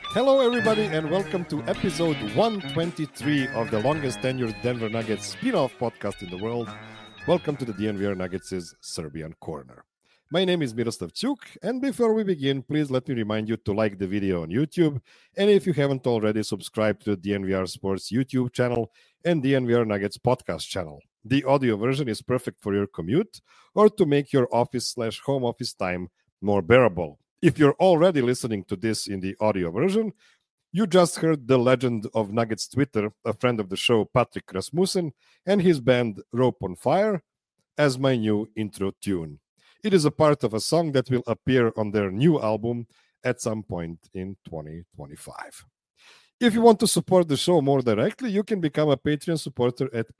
Hello, everybody, and welcome to episode 123 of the longest tenured Denver Nuggets spin-off podcast in the world. Welcome to the DNVR Nuggets' Serbian Corner. My name is Miroslav Cuk, and before we begin, please let me remind you to like the video on YouTube, and if you haven't already, subscribe to the DNVR Sports YouTube channel and DNVR Nuggets podcast channel. The audio version is perfect for your commute or to make your office/home office time more bearable. If you're already listening to this in the audio version, you just heard the legend of Nuggets Twitter, a friend of the show, Patrick Rasmussen, and his band Rope on Fire as my new intro tune. It is a part of a song that will appear on their new album at some point in 2025. If you want to support the show more directly, you can become a Patreon supporter at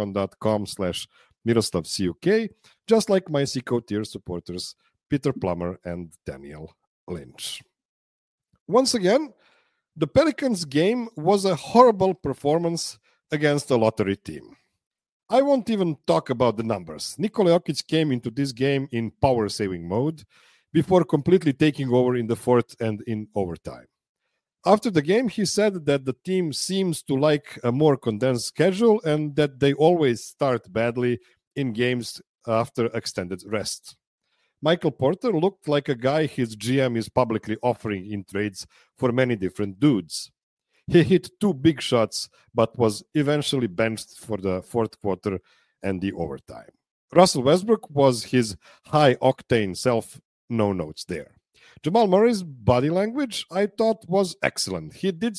patreon.com/MiroslavCuk, just like my Seco tier supporters, Peter Plummer and Daniel Lynch. Once again, the Pelicans game was a horrible performance against a lottery team. I won't even talk about the numbers. Nikola Jokic came into this game in power-saving mode before completely taking over in the fourth and in overtime. After the game, he said that the team seems to like a more condensed schedule and that they always start badly in games after extended rest. Michael Porter looked like a guy his GM is publicly offering in trades for many different dudes. He hit 2 big shots, but was eventually benched for the fourth quarter and the overtime. Russell Westbrook was his high-octane self, no notes there. Jamal Murray's body language, I thought, was excellent. He did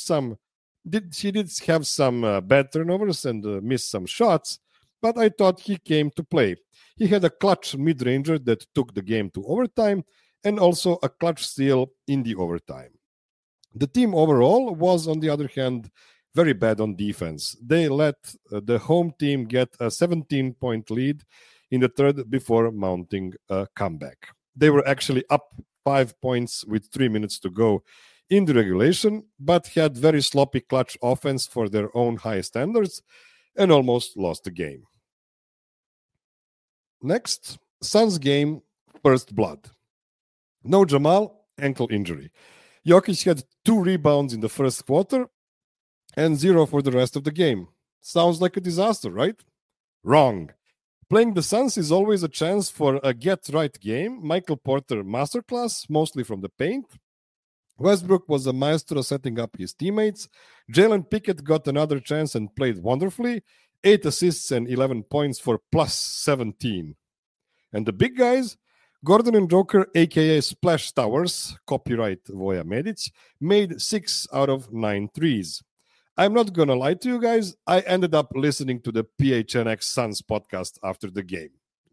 have some bad turnovers and missed some shots, but I thought he came to play. He had a clutch mid-ranger that took the game to overtime and also a clutch steal in the overtime. The team overall was, on the other hand, very bad on defense. They let the home team get a 17-point lead in the third before mounting a comeback. They were actually up 5 points with 3 minutes to go in the regulation, but had very sloppy clutch offense for their own high standards and almost lost the game. Next, Suns game, first blood. No Jamal, ankle injury. Jokic had 2 rebounds in the first quarter and 0 for the rest of the game. Sounds like a disaster, right? Wrong. Playing the Suns is always a chance for a get-right game. Michael Porter masterclass, mostly from the paint. Westbrook was a maestro setting up his teammates. Jalen Pickett got another chance and played wonderfully. 8 assists and 11 points for plus 17. And the big guys, Gordon and Joker, a.k.a. Splash Towers, copyright Voja Medic, made 6 out of 9 threes. I'm not going to lie to you guys. I ended up listening to the PHNX Suns podcast after the game.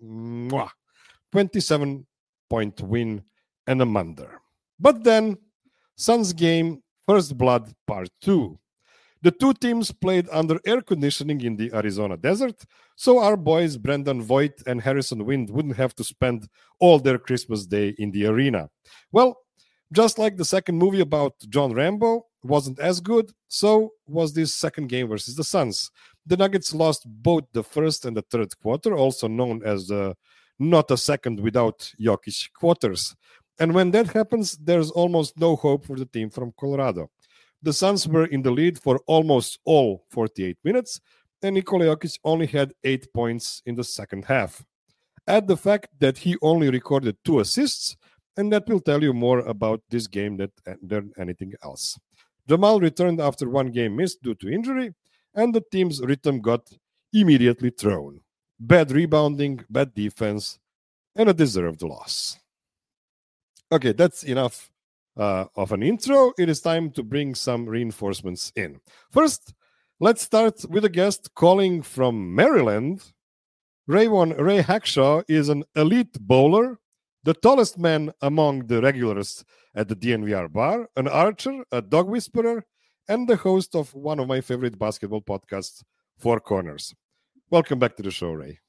27-point win and a munder. But then, Suns game, first blood, part 2. The two teams played under air conditioning in the Arizona desert, so our boys Brendan Voigt and Harrison Wind wouldn't have to spend all their Christmas Day in the arena. Well, just like the second movie about John Rambo wasn't as good, so was this second game versus the Suns. The Nuggets lost both the first and the third quarter, also known as the not a second without Jokic quarters. And when that happens, there's almost no hope for the team from Colorado. The Suns were in the lead for almost all 48 minutes, and Nikola Jokic only had 8 points in the second half. Add the fact that he only recorded 2 assists, and that will tell you more about this game than anything else. Jamal returned after 1 game missed due to injury, and the team's rhythm got immediately thrown. Bad rebounding, bad defense, and a deserved loss. Okay, that's enough of an intro. It is time to bring some reinforcements in. First, let's start with a guest calling from Maryland. Ray Hackshaw is an elite bowler, the tallest man among the regulars at the DNVR bar, an archer, a dog whisperer, and the host of one of my favorite basketball podcasts, Four Corners. Welcome back to the show, Ray.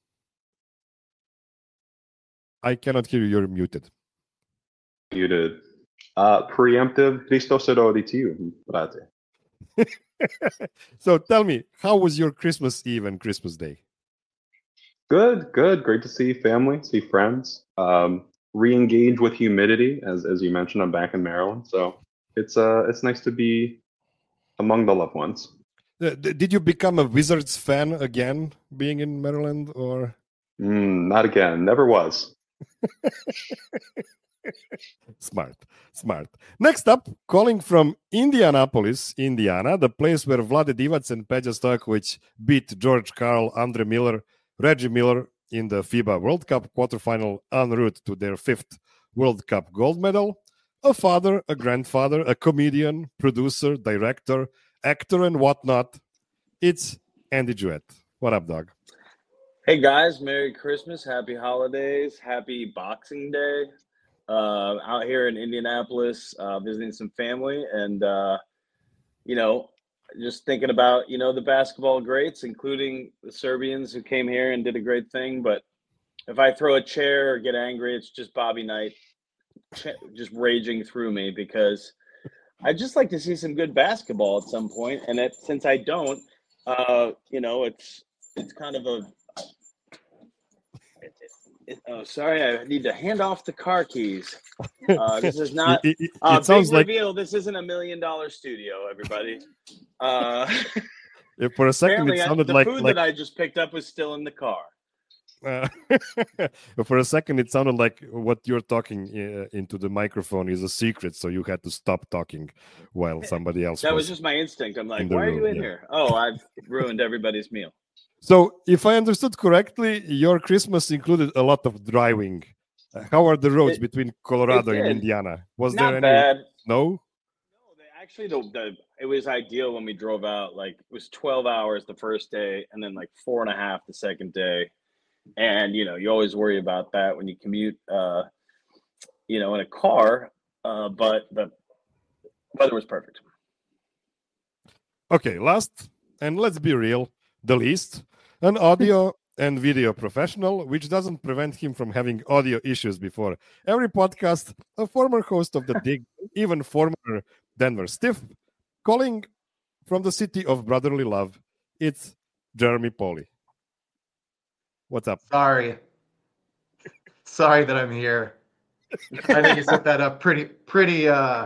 I cannot hear you. You're muted. Muted. Preemptive Christos erodi to you, brate. So tell me, how was your Christmas Eve and Christmas Day? Good. Great to see family, see friends. Re-engage with humidity, as you mentioned. I'm back in Maryland, so It's nice to be among the loved ones. Did you become a Wizards fan again, being in Maryland, or? Not again. Never was. Smart. Next up, calling from Indianapolis, Indiana, the place where Vlade Divac and Peja Stojkovic beat George Karl, Andre Miller, Reggie Miller in the FIBA World Cup quarterfinal en route to their 5th World Cup gold medal. A father, a grandfather, a comedian, producer, director, actor, and whatnot. It's Andy Jewett. What up, dog? Hey guys, Merry Christmas, Happy Holidays, Happy Boxing Day. Out here in Indianapolis, visiting some family, and just thinking about the basketball greats, including the Serbians who came here and did a great thing. But if I throw a chair or get angry, it's just Bobby Knight just raging through me, because I just like to see some good basketball at some point. And since I don't, it's kind of a sorry, I need to hand off the car keys. This is not it sounds like reveal. This isn't $1 million studio, everybody. For a second, it sounded the food that I just picked up was still in the car. For a second, it sounded like what you're talking into the microphone is a secret, so you had to stop talking while somebody else. That was just my instinct. I'm like, why are you in here? Oh, I've ruined everybody's meal. So, if I understood correctly, your Christmas included a lot of driving. How are the roads between Colorado and Indiana? Was Not there any? Bad. No. Actually, it was ideal when we drove out. Like, it was 12 hours the first day, and then like 4.5 the second day. And you always worry about that when you commute, in a car. But the weather was perfect. Okay, last, and let's be real, the least, an audio and video professional, which doesn't prevent him from having audio issues before every podcast, a former host of The Dig, even former Denver Stiff, calling from the city of brotherly love. It's Jeremy Pauly. What's up? Sorry that I'm here. I think you set that up pretty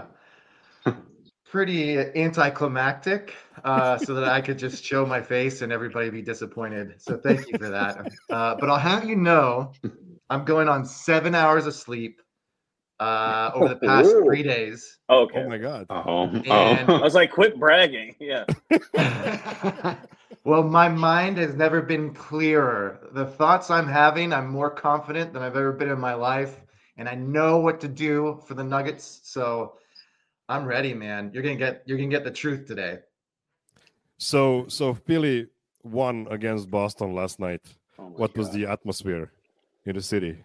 anticlimactic, so that I could just show my face and everybody be disappointed. So thank you for that. But I'll have you know, I'm going on 7 hours of sleep over the past 3 days. Okay. Oh my God. And I was like, quit bragging. Yeah. Well, my mind has never been clearer. The thoughts I'm having, I'm more confident than I've ever been in my life, and I know what to do for the Nuggets. So I'm ready, man. You're gonna get the truth today. So Philly won against Boston last night. What was God. the atmosphere in the city?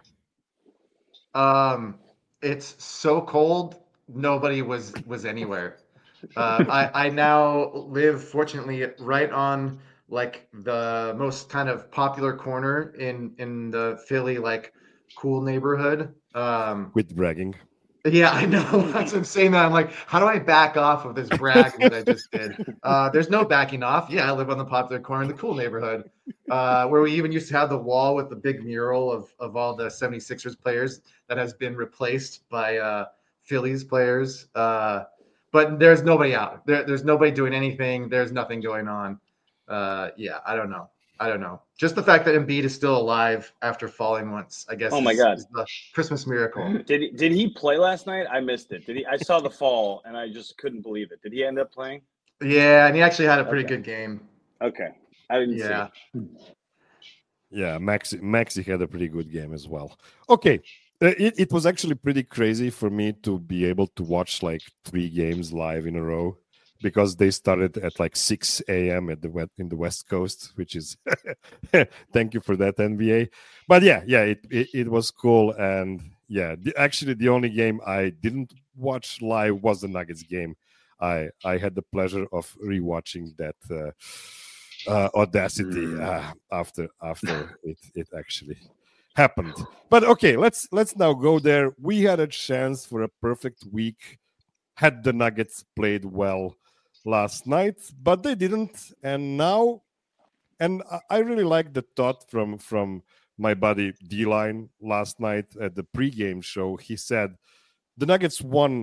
It's so cold. Nobody was anywhere. I now live, fortunately, right on like the most kind of popular corner in the Philly like cool neighborhood. With bragging. Yeah, I know. That's what I'm saying. That I'm like, how do I back off of this bragging that I just did? There's no backing off. Yeah, I live on the popular corner in the cool neighborhood, where we even used to have the wall with the big mural of all the 76ers players that has been replaced by Phillies players. But there's nobody out. There's nobody doing anything. There's nothing going on. Yeah, I don't know. Just the fact that Embiid is still alive after falling once, I guess. Oh my God. Is the Christmas miracle. Did he play last night? I missed it. I saw the fall and I just couldn't believe it. Did he end up playing? Yeah, and he actually had a pretty good game. Okay. I didn't see it. Yeah, Maxi had a pretty good game as well. Okay. It was actually pretty crazy for me to be able to watch like 3 games live in a row, because they started at like 6 a.m. in the West Coast, which is thank you for that, NBA. But yeah, it was cool. And yeah, actually the only game I didn't watch live was the Nuggets game. I had the pleasure of rewatching that Audacity after it actually happened. But okay, let's now go there. We had a chance for a perfect week had the Nuggets played well last night, but they didn't. And now, and I really like the thought from my buddy D-Line last night at the pregame show. He said the Nuggets won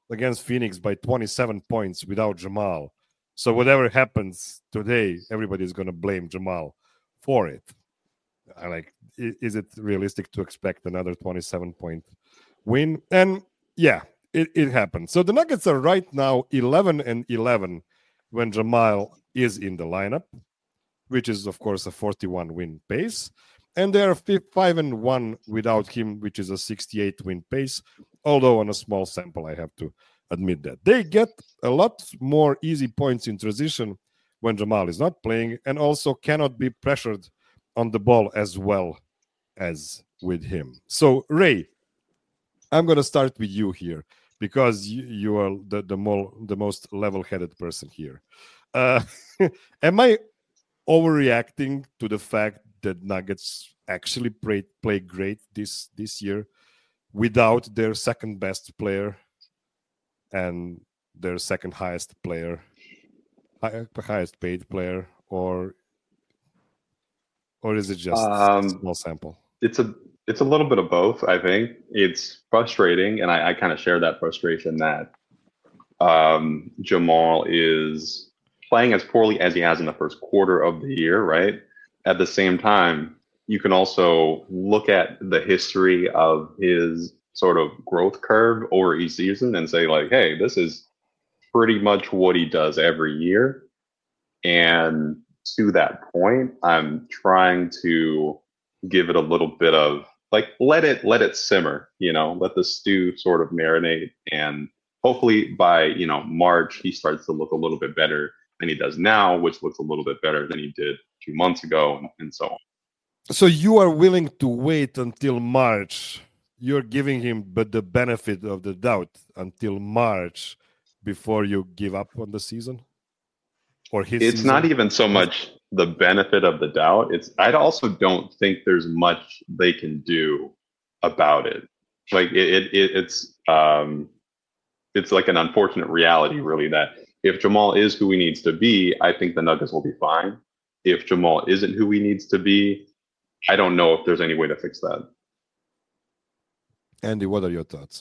against Phoenix by 27 points without Jamal. So whatever happens today, everybody's going to blame Jamal for it. Is it realistic to expect another 27-point win? And yeah, it happened. So the Nuggets are right now 11-11 when Jamal is in the lineup, which is, of course, a 41-win pace. And they are 5-1 without him, which is a 68-win pace, although on a small sample, I have to admit that. They get a lot more easy points in transition when Jamal is not playing, and also cannot be pressured on the ball as well as with him. So, Ray, I'm going to start with you here because you are the most level-headed person here. Am I overreacting to the fact that Nuggets actually play great this year without their second best player and their second highest player, highest paid player, or is it just a small sample? It's a little bit of both. I think it's frustrating, and I kind of share that frustration that Jamal is playing as poorly as he has in the first quarter of the year, right? At the same time, you can also look at the history of his sort of growth curve over each season and say, like, hey, this is pretty much what he does every year. And to that point, I'm trying to give it a little bit of, like, let it simmer, let the stew sort of marinate. And hopefully by, March, he starts to look a little bit better than he does now, which looks a little bit better than he did 2 months ago, and so on. So you are willing to wait until March. You're giving him the benefit of the doubt until March before you give up on the season? Or his It's season? not even so much the benefit of the doubt. I also don't think there's much they can do about it. Like it's like an unfortunate reality, really, that if Jamal is who he needs to be, I think the Nuggets will be fine. If Jamal isn't who he needs to be, I don't know if there's any way to fix that. Andy, what are your thoughts?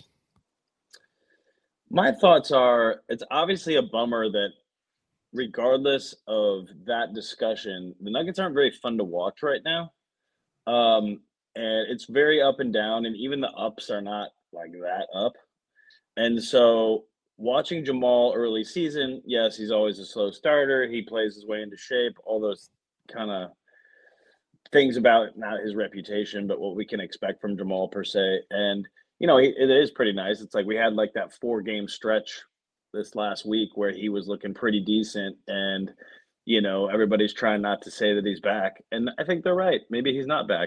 My thoughts are, it's obviously a bummer that regardless of that discussion, the Nuggets aren't very fun to watch right now. And it's very up and down, and even the ups are not like that up. And so watching Jamal early season, yes, he's always a slow starter. He plays his way into shape, all those kind of things about not his reputation, but what we can expect from Jamal per se. And, it is pretty nice. It's like we had like that 4-game stretch this last week where he was looking pretty decent, and, everybody's trying not to say that he's back. And I think they're right. Maybe he's not back.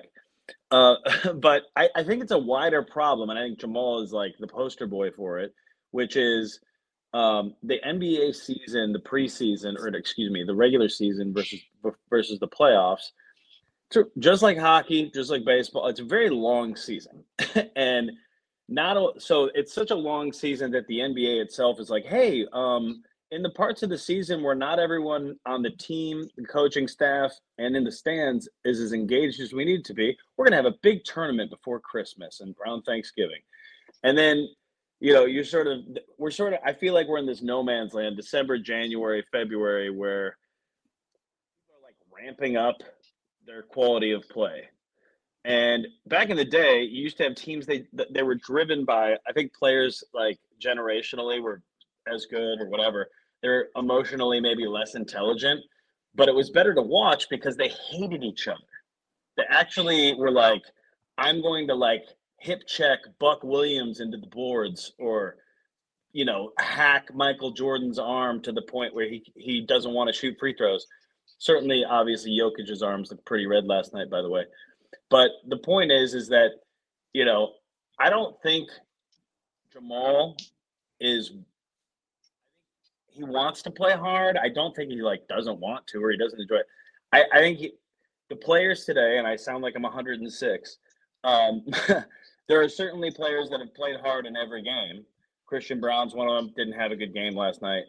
But I think it's a wider problem, and I think Jamal is like the poster boy for it, which is the NBA season, the preseason, or excuse me, the regular season versus the playoffs. So just like hockey, just like baseball, it's a very long season, and so it's such a long season that the NBA itself is like, hey, in the parts of the season where not everyone on the team, the coaching staff, and in the stands is as engaged as we need to be, we're going to have a big tournament before Christmas and around Thanksgiving. And then, I feel like we're in this no man's land, December, January, February, where people are like ramping up their quality of play. And back in the day, you used to have teams, they were driven by, I think players like generationally were as good or whatever. They're emotionally maybe less intelligent, but it was better to watch because they hated each other. They actually were like, I'm going to like hip check Buck Williams into the boards, or, hack Michael Jordan's arm to the point where he doesn't want to shoot free throws. Certainly, obviously, Jokic's arms looked pretty red last night, by the way. But the point is that, I don't think Jamal he wants to play hard. I don't think he doesn't want to, or he doesn't enjoy it. I think the players today, and I sound like I'm 106. There are certainly players that have played hard in every game. Christian Braun's one of them. Didn't have a good game last night.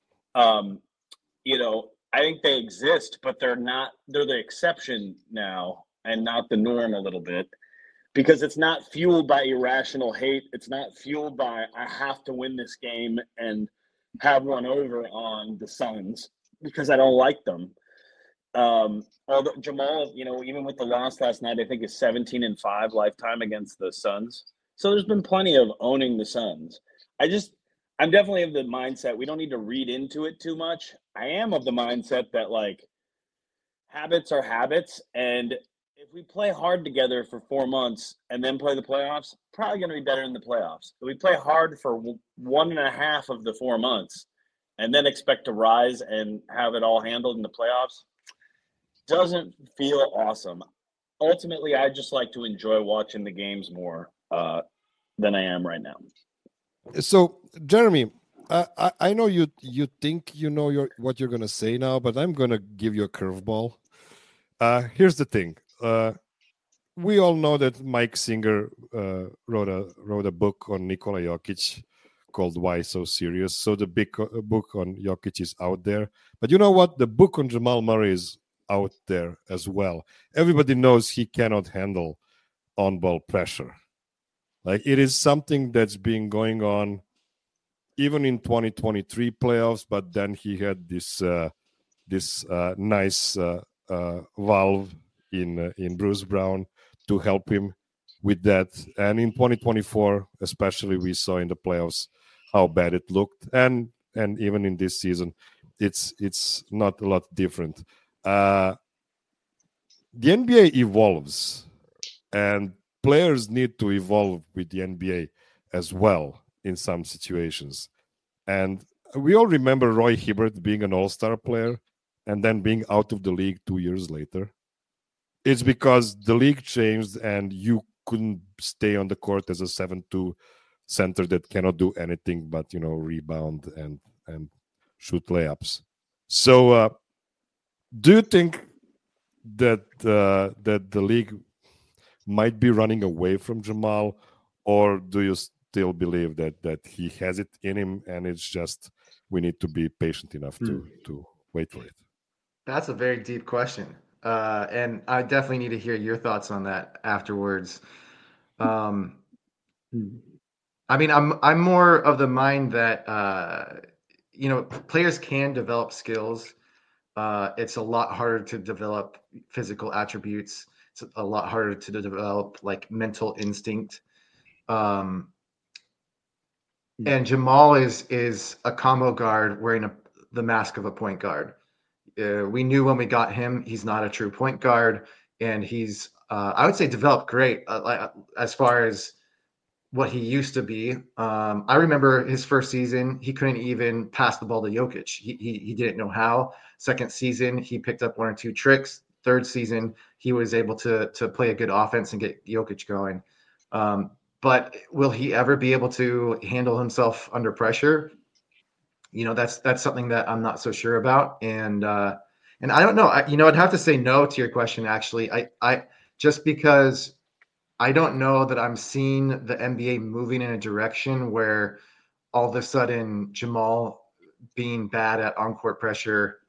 I think they exist, but they're the exception now and not the norm a little bit, because it's not fueled by irrational hate. It's not fueled by I have to win this game and have one over on the Suns because I don't like them. Although Jamal, even with the loss last night, I think is 17-5 lifetime against the Suns. So there's been plenty of owning the Suns. I'm definitely of the mindset we don't need to read into it too much. I am of the mindset that like habits are habits, and if we play hard together for 4 months and then play the playoffs, probably going to be better in the playoffs. If we play hard for 1.5 of the 4 months and then expect to rise and have it all handled in the playoffs, doesn't feel awesome. Ultimately, I just like to enjoy watching the games more than I am right now. So, Jeremy, I know you think you know what you're going to say now, but I'm going to give you a curveball. Here's the thing. We all know that Mike Singer wrote a book on Nikola Jokic called Why So Serious. So the big book on Jokic is out there. But you know what? The book on Jamal Murray is out there as well. Everybody knows he cannot handle on-ball pressure. Like, it is something that's been going on even in 2023 playoffs, but then he had this nice valve in Bruce Brown to help him with that. And in 2024, especially, we saw in the playoffs how bad it looked. And even in this season, it's not a lot different. The NBA evolves, and players need to evolve with the NBA as well in some situations. And we all remember Roy Hibbert being an all-star player and then being out of the league 2 years later. It's because the league changed and you couldn't stay on the court as a 7'2" center that cannot do anything but, rebound and shoot layups. So do you think that the league might be running away from Jamal, or do you still believe that he has it in him and it's just we need to be patient enough to wait for it? That's a very deep question. And I definitely need to hear your thoughts on that afterwards. I mean, I'm more of the mind that players can develop skills. It's a lot harder to develop physical attributes. It's a lot harder to develop like mental instinct. And Jamal is a combo guard wearing the mask of a point guard. We knew when we got him, he's not a true point guard, and he's, I would say, developed great as far as what he used to be. I remember his first season, he couldn't even pass the ball to Jokic. He didn't know how. Second season, he picked up 1 or 2 tricks. Third season, he was able to play a good offense and get Jokic going. But will he ever be able to handle himself under pressure? That's something that I'm not so sure about. And I don't know, I'd have to say no to your question. Actually, I just because I don't know that I'm seeing the NBA moving in a direction where all of a sudden Jamal being bad at on-court pressure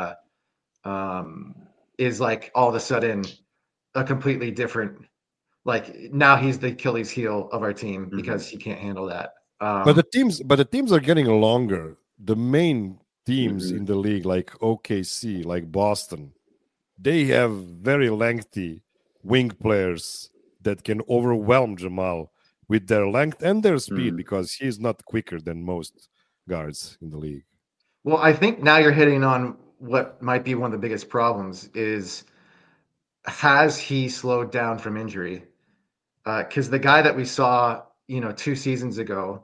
is like all of a sudden a completely different, like now he's the Achilles heel of our team because he can't handle that. But the teams are getting longer. The main teams in the league, like OKC, like Boston, they have very lengthy wing players that can overwhelm Jamal with their length and their speed because he's not quicker than most guards in the league. Well, I think now you're hitting on what might be one of the biggest problems is, has he slowed down from injury? Because the guy that we saw, 2 seasons ago,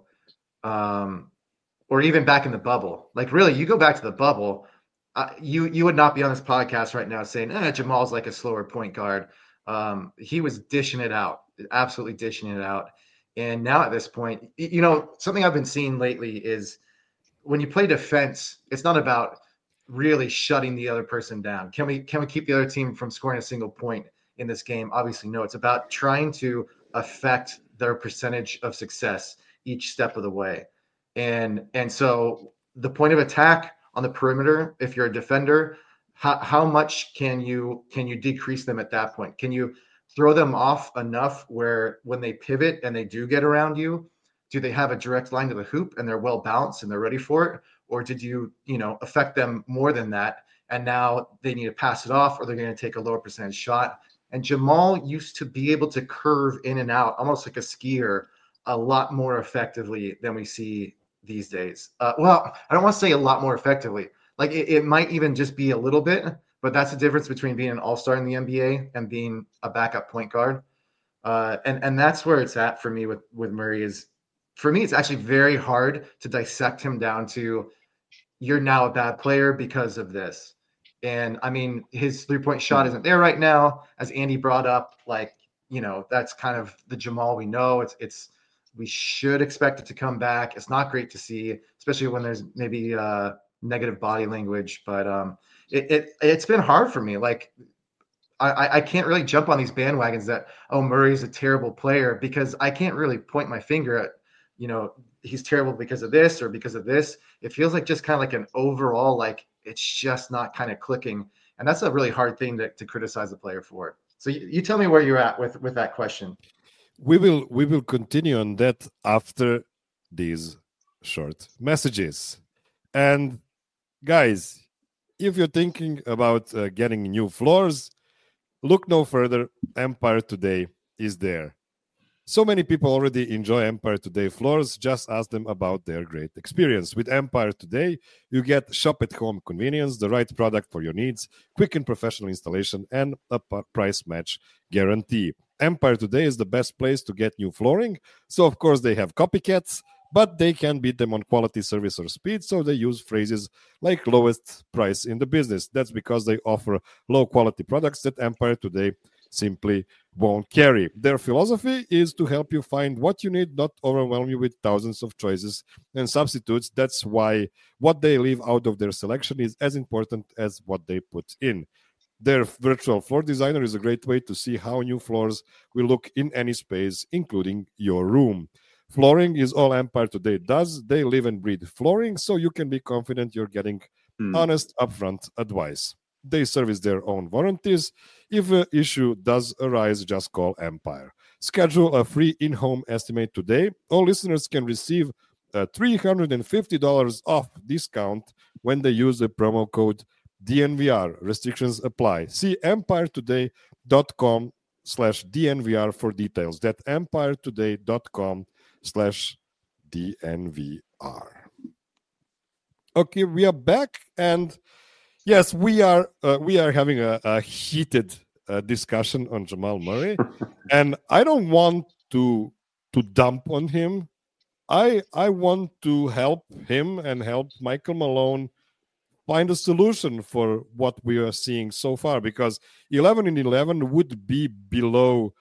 or even back in the bubble, like really, you go back to the bubble, you would not be on this podcast right now saying, Jamal's like a slower point guard. He was dishing it out, absolutely dishing it out. And now at this point, something I've been seeing lately is when you play defense, it's not about really shutting the other person down. Can we keep the other team from scoring a single point in this game? Obviously, no. It's about trying to affect their percentage of success each step of the way. And so the point of attack on the perimeter, if you're a defender, how much can you decrease them at that point? Can you throw them off enough where when they pivot and they do get around you, do they have a direct line to the hoop and they're well balanced and they're ready for it? Or did you, affect them more than that? And now they need to pass it off or they're going to take a lower percentage shot. And Jamal used to be able to curve in and out, almost like a skier, a lot more effectively than we see these days. Well, I don't want to say a lot more effectively. Like it might even just be a little bit, but that's the difference between being an all-star in the NBA and being a backup point guard. And that's where it's at for me with Murray. Is for me, it's actually very hard to dissect him down to you're now a bad player because of this. And I mean, his 3-point shot isn't there right now, as Andy brought up. Like, that's kind of the Jamal we know. It's we should expect it to come back. It's not great to see, especially when there's maybe negative body language. But it's been hard for me. Like, I can't really jump on these bandwagons that, oh, Murray's a terrible player, because I can't really point my finger at, he's terrible because of this or because of this. It feels like just kind of like an overall, like it's just not kind of clicking. And that's a really hard thing to criticize the player for. So you tell me where you're at with that question. We will continue on that after these short messages. And guys, if you're thinking about getting new floors, look no further. Empire Today is there. So many people already enjoy Empire Today floors. Just ask them about their great experience. With Empire Today, you get shop-at-home convenience, the right product for your needs, quick and professional installation, and a price match guarantee. Empire Today is the best place to get new flooring. So, of course, they have copycats, but they can beat them on quality, service, or speed. So they use phrases like lowest price in the business. That's because they offer low-quality products that Empire Today simply won't carry. Their philosophy is to help you find what you need, not overwhelm you with thousands of choices and substitutes. That's why what they leave out of their selection is as important as what they put in. Their virtual floor designer is a great way to see how new floors will look in any space, including your room. Flooring is all Empire Today does. They live and breathe flooring, so you can be confident you're getting honest, upfront advice. They service their own warranties. If an issue does arise, just call Empire. Schedule a free in-home estimate today. All listeners can receive a $350 off discount when they use the promo code DNVR. Restrictions apply. See empiretoday.com/DNVR for details. That's empiretoday.com/DNVR. Okay, we are back, and yes, we are having a heated discussion on Jamal Murray, and I don't want to dump on him. I want to help him and help Michael Malone find a solution for what we are seeing so far, because 11-11 would be below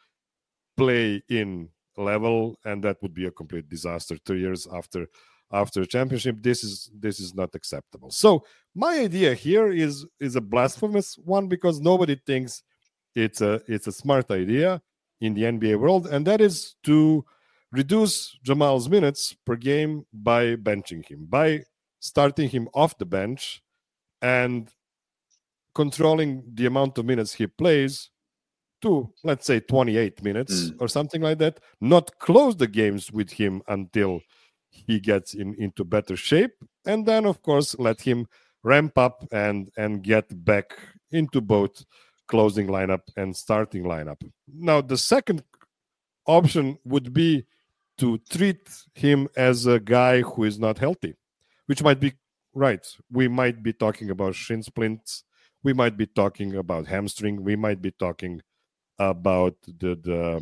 play-in level, and that would be a complete disaster 2 years after a championship. This is not acceptable. So my idea here is a blasphemous one, because nobody thinks it's a smart idea in the NBA world, and that is to reduce Jamal's minutes per game by benching him, by starting him off the bench and controlling the amount of minutes he plays to, let's say, 28 minutes or something like that. Not close the games with him until he gets into better shape, and then, of course, let him ramp up and get back into both closing lineup and starting lineup. Now, the second option would be to treat him as a guy who is not healthy, which might be right. We might be talking about shin splints. We might be talking about hamstring. We might be talking about the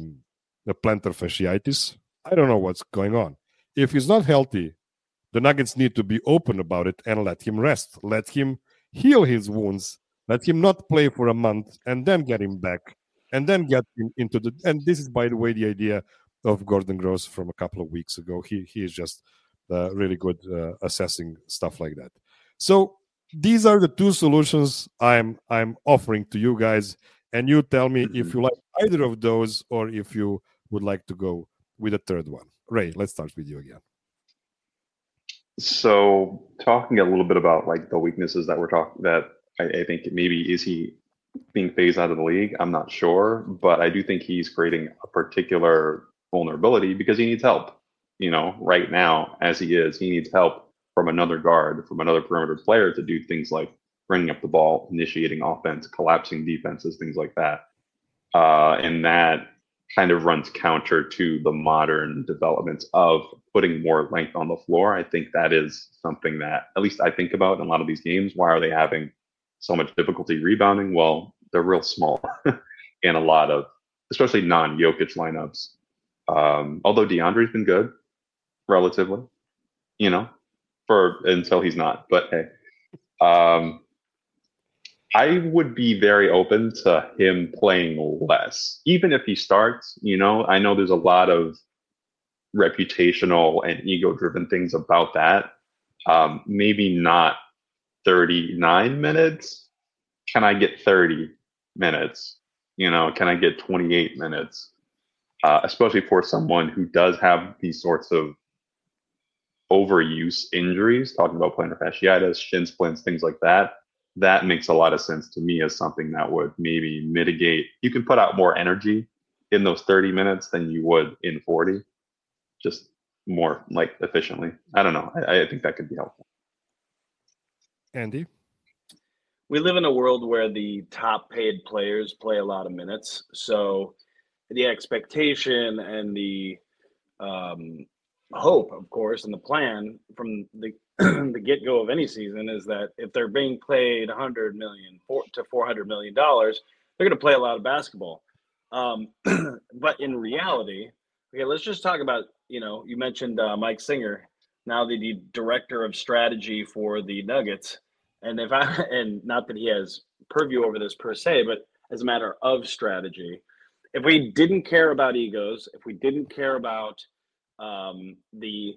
plantar fasciitis. I don't know what's going on. If he's not healthy, the Nuggets need to be open about it and let him rest. Let him heal his wounds. Let him not play for a month and then get him back and then get him into the... And this is, by the way, the idea of Gordon Gross from a couple of weeks ago. He is just really good assessing stuff like that. So these are the two solutions I'm offering to you guys. And you tell me if you like either of those or if you would like to go with a third one. Ray, let's start with you again. So talking a little bit about like the weaknesses that we're talking, that I think maybe is he being phased out of the league, I'm not sure, but I do think he's creating a particular vulnerability because he needs help. Right now, as he is, he needs help from another guard, from another perimeter player to do things like bringing up the ball, initiating offense, collapsing defenses, things like that. And that kind of runs counter to the modern developments of putting more length on the floor. I think that is something that at least I think about in a lot of these games. Why are they having so much difficulty rebounding? Well, they're real small in a lot of, especially non-Jokic lineups. Although DeAndre's been good, relatively, until he's not. But hey, I would be very open to him playing less, even if he starts. I know there's a lot of reputational and ego-driven things about that. Maybe not 39 minutes. Can I get 30 minutes? Can I get 28 minutes? Especially for someone who does have these sorts of overuse injuries, talking about plantar fasciitis, shin splints, things like that. That makes a lot of sense to me as something that would maybe mitigate. You can put out more energy in those 30 minutes than you would in 40, just more like efficiently. I don't know. I think that could be helpful. Andy? We live in a world where the top paid players play a lot of minutes. So the expectation and the hope, of course, and the plan from the the get-go of any season is that if they're being paid $100 million to $400 million, they're going to play a lot of basketball. But in reality, okay, let's just talk about, you mentioned Mike Singer, now the director of strategy for the Nuggets. And and not that he has purview over this per se, but as a matter of strategy, if we didn't care about egos, if we didn't care about the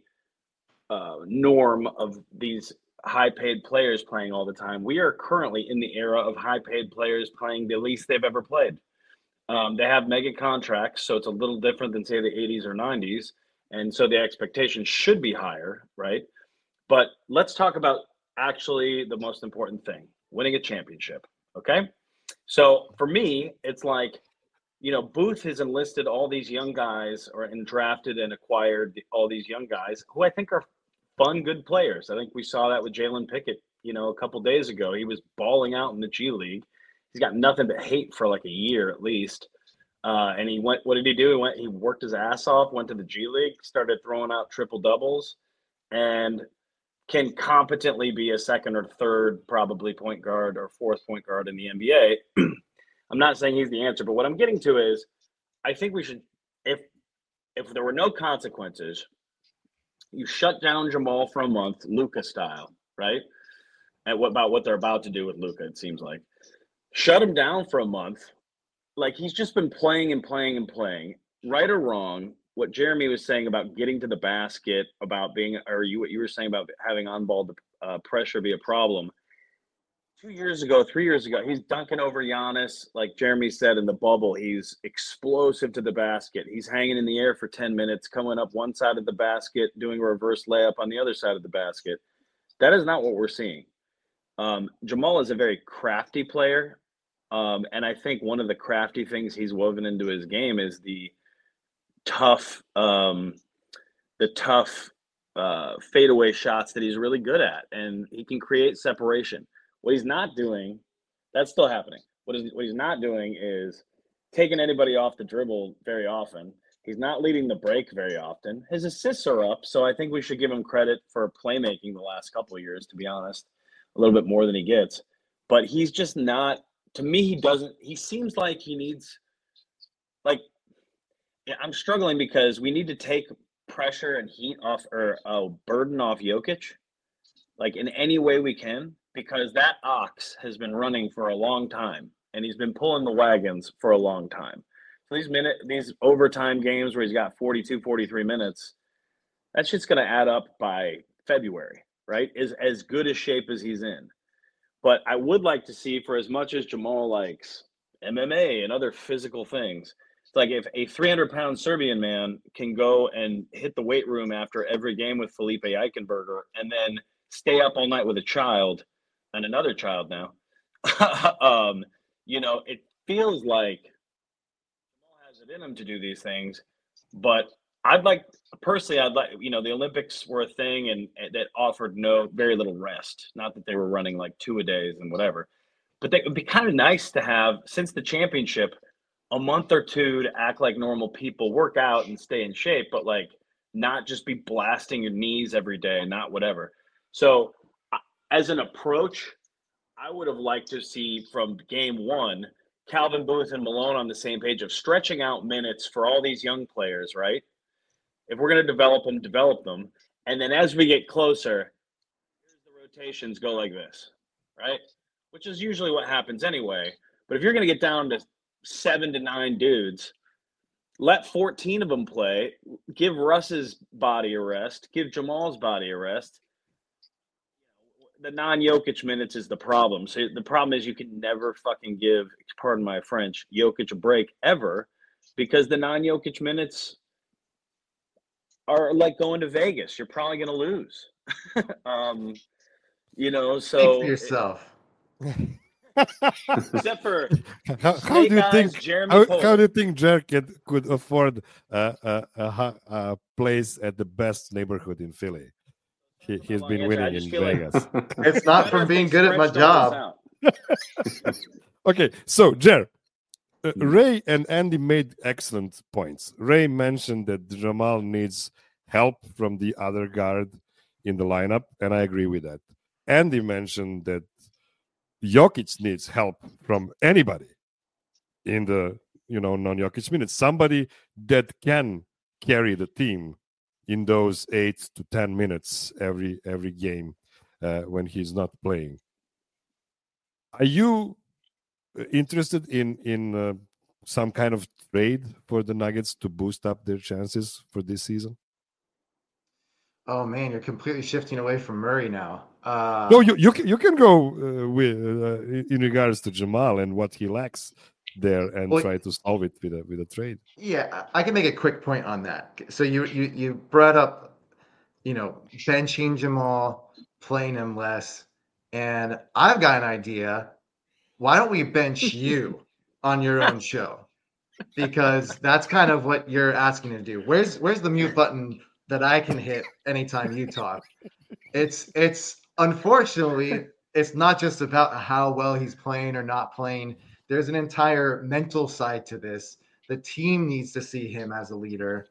norm of these high-paid players playing all the time, we are currently in the era of high-paid players playing the least they've ever played. They have mega contracts, so it's a little different than, say, the 80s or 90s, and so the expectation should be higher, right? But let's talk about actually the most important thing, winning a championship, okay? So for me, it's like, Booth has enlisted all these young guys and drafted and acquired all these young guys who I think are fun, good players. I think we saw that with Jalen Pickett, a couple days ago. He was balling out in the G League. He's got nothing but hate for like a year at least. And he went, what did he do? He worked his ass off, went to the G League, started throwing out triple doubles, and can competently be a second or third, probably point guard or fourth point guard in the NBA. I'm not saying he's the answer, but what I'm getting to is I think we should, if there were no consequences, you shut down Jamal for a month, Luka style, right? And what they're about to do with Luka, it seems like. Shut him down for a month. Like, he's just been playing and playing and playing. Right or wrong, what Jeremy was saying about getting to the basket, about what you were saying about having on-ball pressure be a problem. 3 years ago, he's dunking over Giannis. Like Jeremy said in the bubble, he's explosive to the basket. He's hanging in the air for 10 minutes, coming up one side of the basket, doing a reverse layup on the other side of the basket. That is not what we're seeing. Jamal is a very crafty player. And I think one of the crafty things he's woven into his game is the tough fadeaway shots that he's really good at. And he can create separation. What he's not doing, that's still happening. What he's not doing is taking anybody off the dribble very often. He's not leading the break very often. His assists are up, so I think we should give him credit for playmaking the last couple of years, to be honest, a little bit more than he gets. But he's just not, to me, he seems like he needs, I'm struggling because we need to take pressure and heat off, or burden off Jokic, in any way we can. Because that ox has been running for a long time, and he's been pulling the wagons for a long time. So these overtime games where he's got 42, 43 minutes, that shit's going to add up by February, right? Is as good a shape as he's in. But I would like to see, for as much as Jamal likes MMA and other physical things, it's like if a 300-pound Serbian man can go and hit the weight room after every game with Felipe Eichenberger and then stay up all night with a child, and another child now, it feels like Jamal has it in him to do these things, but I'd like the Olympics were a thing and that offered very little rest. Not that they were running like 2-a-days and whatever, but it would be kind of nice to have, since the championship, a month or two to act like normal people, work out and stay in shape, but like not just be blasting your knees every day, not whatever. So as an approach, I would have liked to see from game one, Calvin Booth and Malone on the same page of stretching out minutes for all these young players, right? If we're going to develop them. And then as we get closer, here's the rotations go like this, right? Which is usually what happens anyway. But if you're going to get down to 7 to 9 dudes, let 14 of them play, give Russ's body a rest, give Jamal's body a rest. The non-Jokic minutes is the problem. So the problem is you can never fucking give, pardon my French, Jokic a break ever, because the non-Jokic minutes are like going to Vegas. You're probably going to lose. So Think for yourself. Except for how do you think Jeremy how do you think Jer could afford a place at the best neighborhood in Philly? He's been winning in Vegas. It's not from being good at my job. Okay, so Jer, Ray and Andy made excellent points. Ray mentioned that Jamal needs help from the other guard in the lineup, and I agree with that. Andy mentioned that Jokic needs help from anybody in the non-Jokic minutes. Somebody that can carry the team in those 8 to 10 minutes every game when he's not playing. Are you interested in some kind of trade for the Nuggets to boost up their chances for this season? Oh man, you're completely shifting away from Murray now. No, you can go with in regards to Jamal and what he lacks there, and try to solve it with a trade. Yeah, I can make a quick point on that. So you brought up, benching Jamal, playing him less, and I've got an idea. Why don't we bench you on your own show? Because that's kind of what you're asking to do. Where's the mute button that I can hit anytime you talk? It's unfortunately, it's not just about how well he's playing or not playing. There's an entire mental side to this. The team needs to see him as a leader.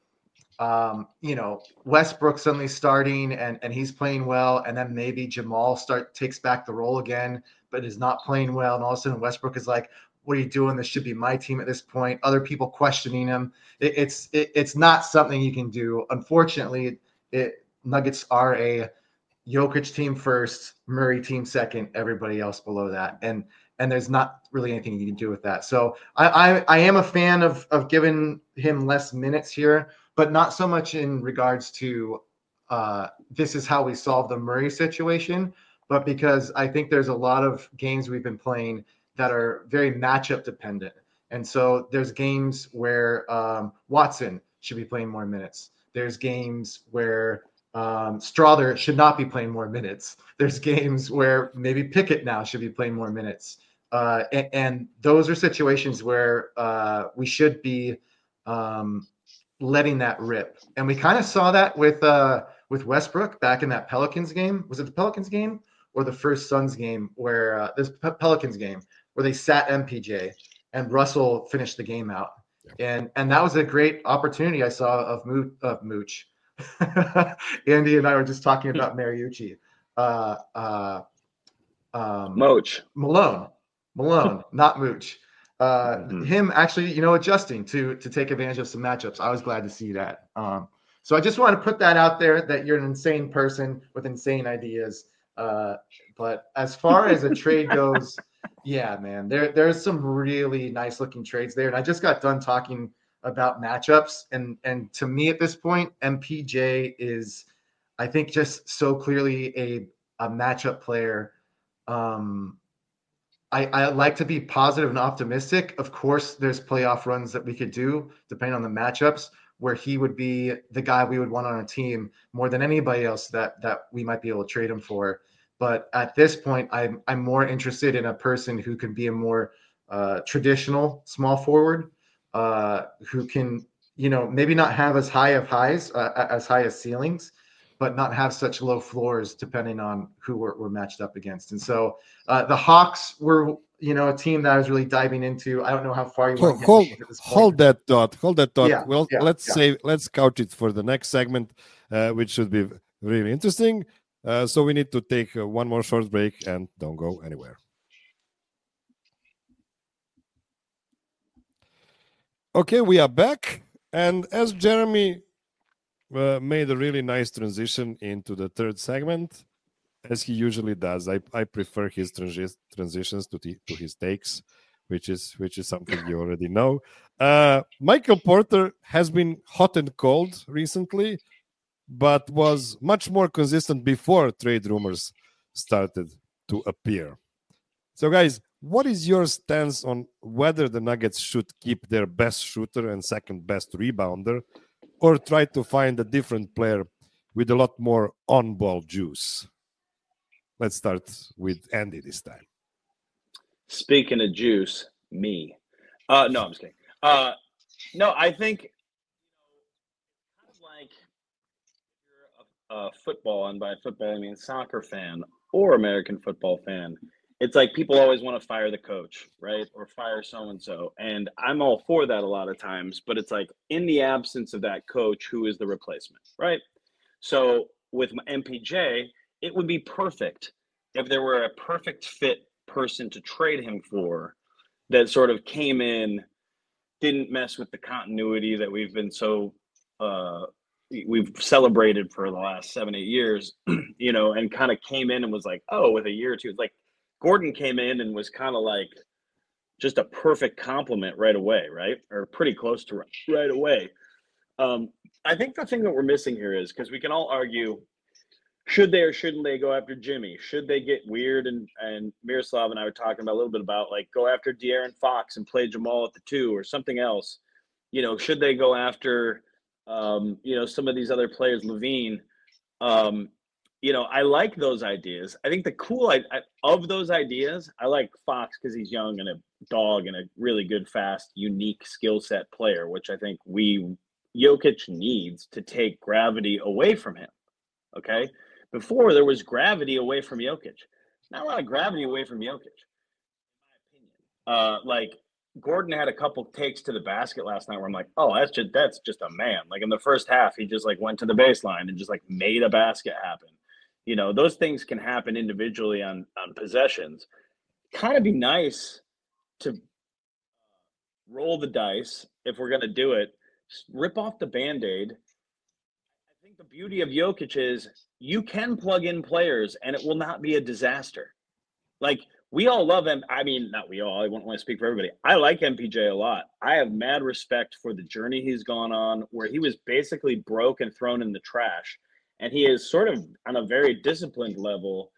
Westbrook suddenly starting and he's playing well, and then maybe Jamal takes back the role again, but is not playing well, and all of a sudden Westbrook is like, "What are you doing? This should be my team at this point." Other people questioning him. It's not something you can do. Unfortunately, Nuggets are a Jokic team first, Murray team second, everybody else below that, and there's not really anything you can do with that. So I am a fan of giving him less minutes here, but not so much in regards to this is how we solve the Murray situation, but because I think there's a lot of games we've been playing that are very matchup dependent. And so there's games where Watson should be playing more minutes. There's games where Strother should not be playing more minutes. There's games where maybe Pickett now should be playing more minutes. And those are situations where we should be letting that rip. And we kind of saw that with Westbrook back in that Pelicans game. Was it the Pelicans game or the first Suns game where this Pelicans game where they sat MPJ and Russell finished the game out? And that was a great opportunity I saw of Mooch. Andy and I were just talking about Mariucci. Malone, not Mooch. Him actually, adjusting to take advantage of some matchups. I was glad to see that. So I just want to put that out there that you're an insane person with insane ideas. But as far as a trade goes, yeah, man, there's some really nice looking trades there. And I just got done talking about matchups. And to me at this point, MPJ is, I think, just so clearly a matchup player. I like to be positive and optimistic. Of course, there's playoff runs that we could do depending on the matchups where he would be the guy we would want on our team more than anybody else that we might be able to trade him for. But at this point, I'm more interested in a person who can be a more traditional small forward who can, maybe not have as high as ceilings, but not have such low floors depending on who we're matched up against. And so the Hawks were, a team that I was really diving into. I don't know how far you want to get at this point. Hold that thought. Yeah, Well, yeah, let's couch it for the next segment, which should be really interesting. So we need to take one more short break, and don't go anywhere. Okay, we are back. And as Jeremy made a really nice transition into the third segment, as he usually does, I prefer his transitions to his takes, which is something you already know. Michael Porter has been hot and cold recently, but was much more consistent before trade rumors started to appear. So, guys, what is your stance on whether the Nuggets should keep their best shooter and second best rebounder, or try to find a different player with a lot more on-ball juice? Let's start with Andy this time. Speaking of juice, me. No, I'm just kidding. No, I think kind of like if you're a football, and by football I mean soccer fan or American football fan, it's like people always want to fire the coach, right? Or fire so-and-so. And I'm all for that a lot of times, but it's like in the absence of that coach, who is the replacement, right? So with MPJ, it would be perfect if there were a perfect fit person to trade him for that sort of came in, didn't mess with the continuity that we've been so we've celebrated for the last 7-8 years, and kind of came in and was like, oh, with a year or two, it's like Gordon came in and was kind of like just a perfect compliment right away, right? Or pretty close to right away. I think the thing that we're missing here is, because we can all argue, should they or shouldn't they go after Jimmy? Should they get weird? And Miroslav and I were talking about a little bit about, like, go after De'Aaron Fox and play Jamal at the 2 or something else. Should they go after, some of these other players, Levine? I like those ideas. I think the cool of those ideas, I like Fox because he's young and a dog and a really good, fast, unique skill set player, which I think Jokic needs to take gravity away from him. Okay. Before there was gravity away from Jokic. Not a lot of gravity away from Jokic, in my opinion. Like Gordon had a couple takes to the basket last night where I'm like, oh, that's just a man. Like in the first half, he just like went to the baseline and just like made a basket happen. Those things can happen individually on possessions. Kind of be nice to roll the dice if we're going to do it. Rip off the Band-Aid. I think the beauty of Jokic is you can plug in players and it will not be a disaster. Like, we all love him. I mean, not we all. I wouldn't want to speak for everybody. I like MPJ a lot. I have mad respect for the journey he's gone on, where he was basically broke and thrown in the trash. And he is sort of, on a very disciplined level,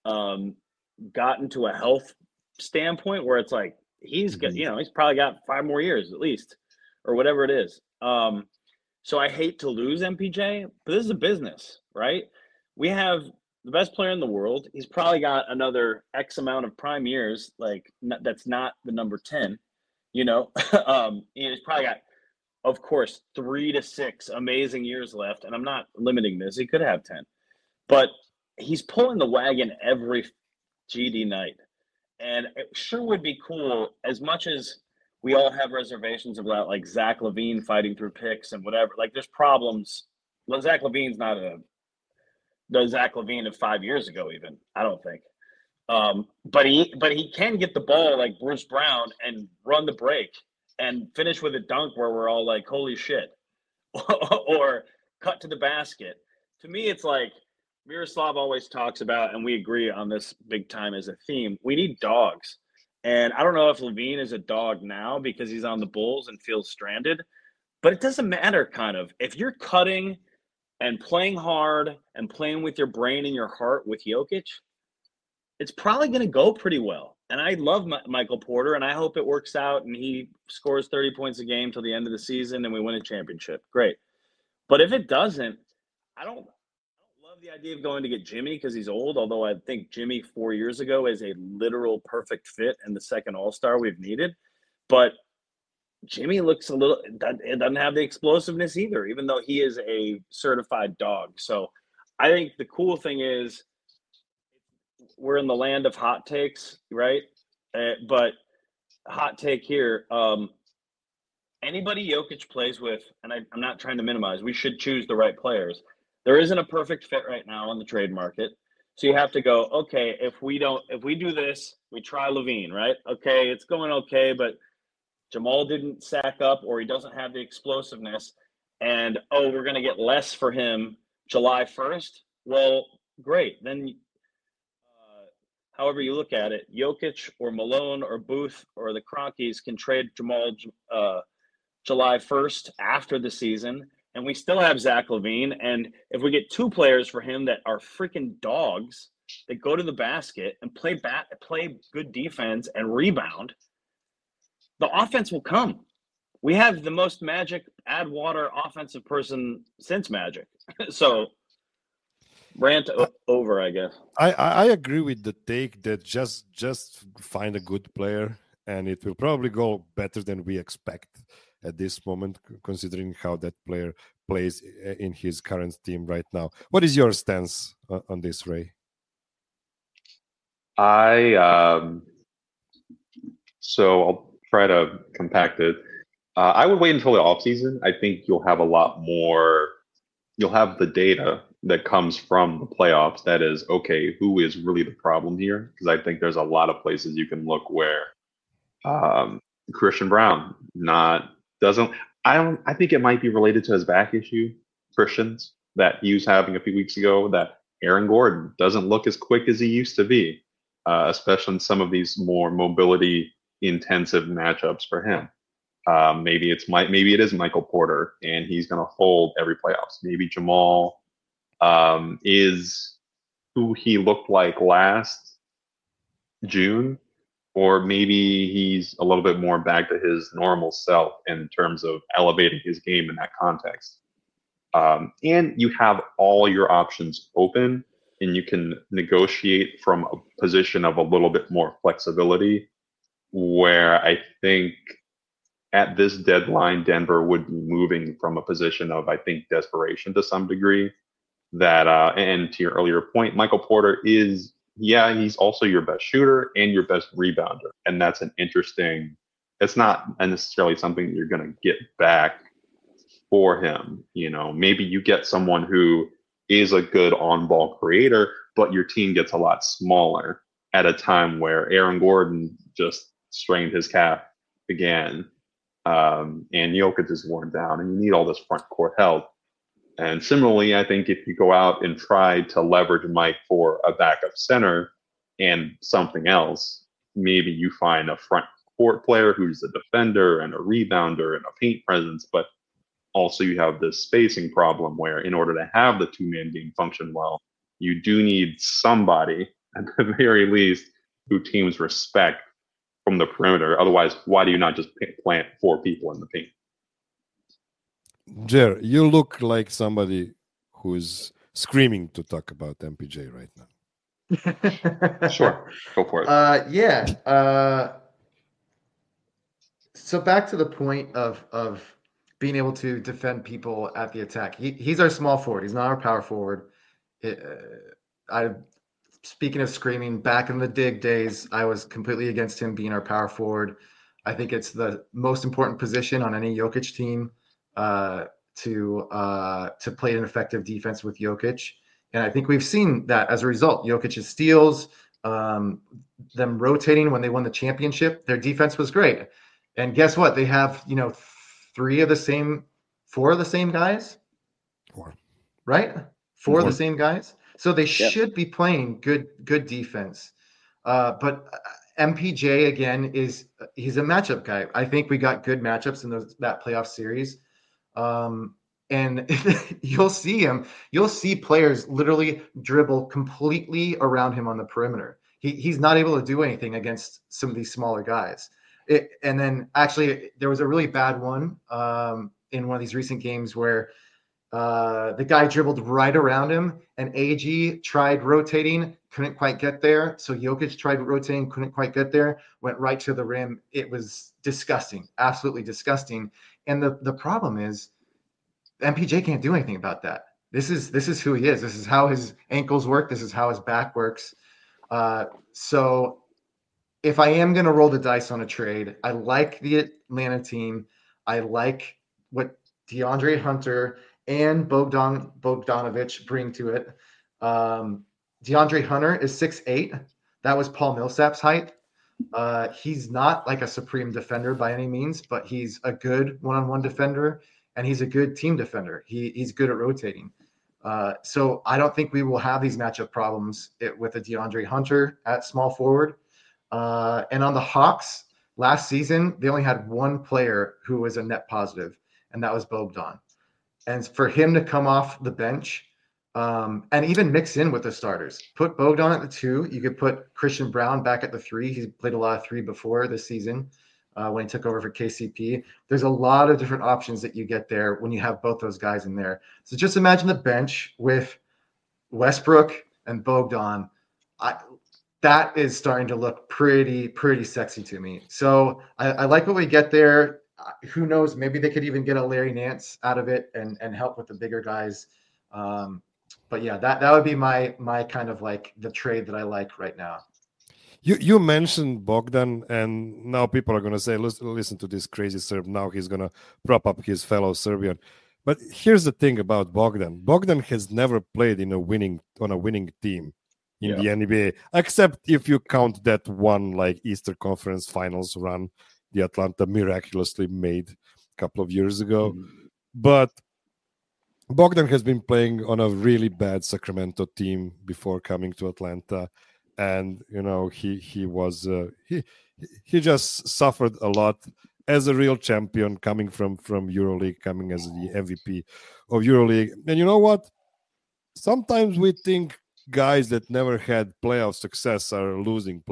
gotten to a health standpoint where it's like he's got, he's probably got 5 more years at least, or whatever it is. So I hate to lose MPJ, but this is a business, right? We have the best player in the world. He's probably got another X amount of prime years, like that's not the number 10, he's probably got, of course, 3 to 6 amazing years left. And I'm not limiting this. He could have 10, but he's pulling the wagon every GD night. And it sure would be cool, as much as we all have reservations about like Zach LaVine fighting through picks and whatever. Like there's problems. Well, Zach LaVine's not the Zach LaVine of 5 years ago, even, I don't think. But he can get the ball like Bruce Brown and run the break and finish with a dunk where we're all like, holy shit, or cut to the basket. To me, it's like Miroslav always talks about, and we agree on this big time as a theme, we need dogs. And I don't know if LaVine is a dog now because he's on the Bulls and feels stranded, but it doesn't matter, kind of. If you're cutting and playing hard and playing with your brain and your heart with Jokic, it's probably going to go pretty well. And I love Michael Porter, and I hope it works out and he scores 30 points a game till the end of the season and we win a championship. Great. But if it doesn't, I don't love the idea of going to get Jimmy because he's old, although I think Jimmy 4 years ago is a literal perfect fit and the second All-Star we've needed. But Jimmy looks it doesn't have the explosiveness either, even though he is a certified dog. So I think the cool thing is we're in the land of hot takes, right? But hot take here, anybody Jokic plays with, and I'm not trying to minimize, we should choose the right players. There isn't a perfect fit right now on the trade market. So you have to go, okay, if we do this, we try LaVine, right? Okay, it's going okay, but Jamal didn't sack up or he doesn't have the explosiveness. And, we're going to get less for him July 1st. Well, great. Then however you look at it, Jokic or Malone or Booth or the Cronkies can trade Jamal July 1st after the season, and we still have Zach LaVine. And if we get two players for him that are freaking dogs that go to the basket and play good defense and rebound, the offense will come. We have the most Magic add water offensive person since Magic. So rant over, I guess. I agree with the take that just find a good player, and it will probably go better than we expect at this moment, considering how that player plays in his current team right now. What is your stance on this, Ray? So I'll try to compact it. I would wait until the offseason. I think you'll have a lot more. You'll have the data that comes from the playoffs. That is, okay, who is really the problem here? Because I think there's a lot of places you can look where Christian Brown I think it might be related to his back issue, Christian's, that he was having a few weeks ago, that Aaron Gordon doesn't look as quick as he used to be, especially in some of these more mobility intensive matchups for him. Maybe it is Michael Porter and he's going to hold every playoffs. Maybe Jamal is who he looked like last June, or maybe he's a little bit more back to his normal self in terms of elevating his game in that context. And you have all your options open, and you can negotiate from a position of a little bit more flexibility, where I think at this deadline, Denver would be moving from a position of, I think, desperation to some degree. That, and to your earlier point, Michael Porter is, he's also your best shooter and your best rebounder. And that's an interesting, it's not necessarily something that you're going to get back for him. Maybe you get someone who is a good on-ball creator, but your team gets a lot smaller at a time where Aaron Gordon just strained his calf again. And Jokic is worn down, and you need all this front court help. And similarly, I think if you go out and try to leverage Mike for a backup center and something else, maybe you find a front court player who's a defender and a rebounder and a paint presence, but also you have this spacing problem where in order to have the two-man game function well, you do need somebody, at the very least, who teams respect from the perimeter. Otherwise, why do you not just plant four people in the paint? Jer, you look like somebody who's screaming to talk about MPJ right now. Sure, go for it. So back to the point of being able to defend people at the attack. He's our small forward. He's not our power forward. Speaking of screaming, back in the Dig days, I was completely against him being our power forward. I think it's the most important position on any Jokic team to play an effective defense with Jokic. And I think we've seen that as a result. Jokic's steals, them rotating when they won the championship, their defense was great. And guess what? They have, 4 of the same guys. Right? 4 of the same guys. So they should be playing good defense. But MPJ again he's a matchup guy. I think we got good matchups in that playoff series. And you'll see him. You'll see players literally dribble completely around him on the perimeter. He's not able to do anything against some of these smaller guys. And then actually there was a really bad one in one of these recent games where The guy dribbled right around him, and AG tried rotating, couldn't quite get there. So Jokic tried rotating, couldn't quite get there, went right to the rim. It was disgusting, absolutely disgusting. And the problem is MPJ can't do anything about that. This is who he is. This is how his ankles work. This is how his back works. So if I am going to roll the dice on a trade, I like the Atlanta team. I like what DeAndre Hunter and Bogdanovich bring to it. DeAndre Hunter is 6'8". That was Paul Millsap's height. He's not like a supreme defender by any means, but he's a good one-on-one defender, and he's a good team defender. He's good at rotating. So I don't think we will have these matchup problems with a DeAndre Hunter at small forward. And on the Hawks, last season, they only had one player who was a net positive, and that was Bogdan. And for him to come off the bench and even mix in with the starters, put Bogdan at the 2. You could put Christian Brown back at the 3. He's played a lot of 3 before this season when he took over for KCP. There's a lot of different options that you get there when you have both those guys in there. So just imagine the bench with Westbrook and Bogdan. That is starting to look pretty sexy to me. So I like what we get there. Who knows? Maybe they could even get a Larry Nance out of it and help with the bigger guys. But yeah, that would be my kind of like the trade that I like right now. You mentioned Bogdan, and now people are going to say, listen to this crazy Serb. Now he's going to prop up his fellow Serbian. But here's the thing about Bogdan. Bogdan has never played on a winning team in the NBA, except if you count that one like Eastern Conference Finals run the Atlanta miraculously made a couple of years ago. Mm-hmm. But Bogdan has been playing on a really bad Sacramento team before coming to Atlanta. And, he was he just suffered a lot as a real champion coming from EuroLeague, coming as the MVP of EuroLeague. And you know what? Sometimes we think guys that never had playoff success are losing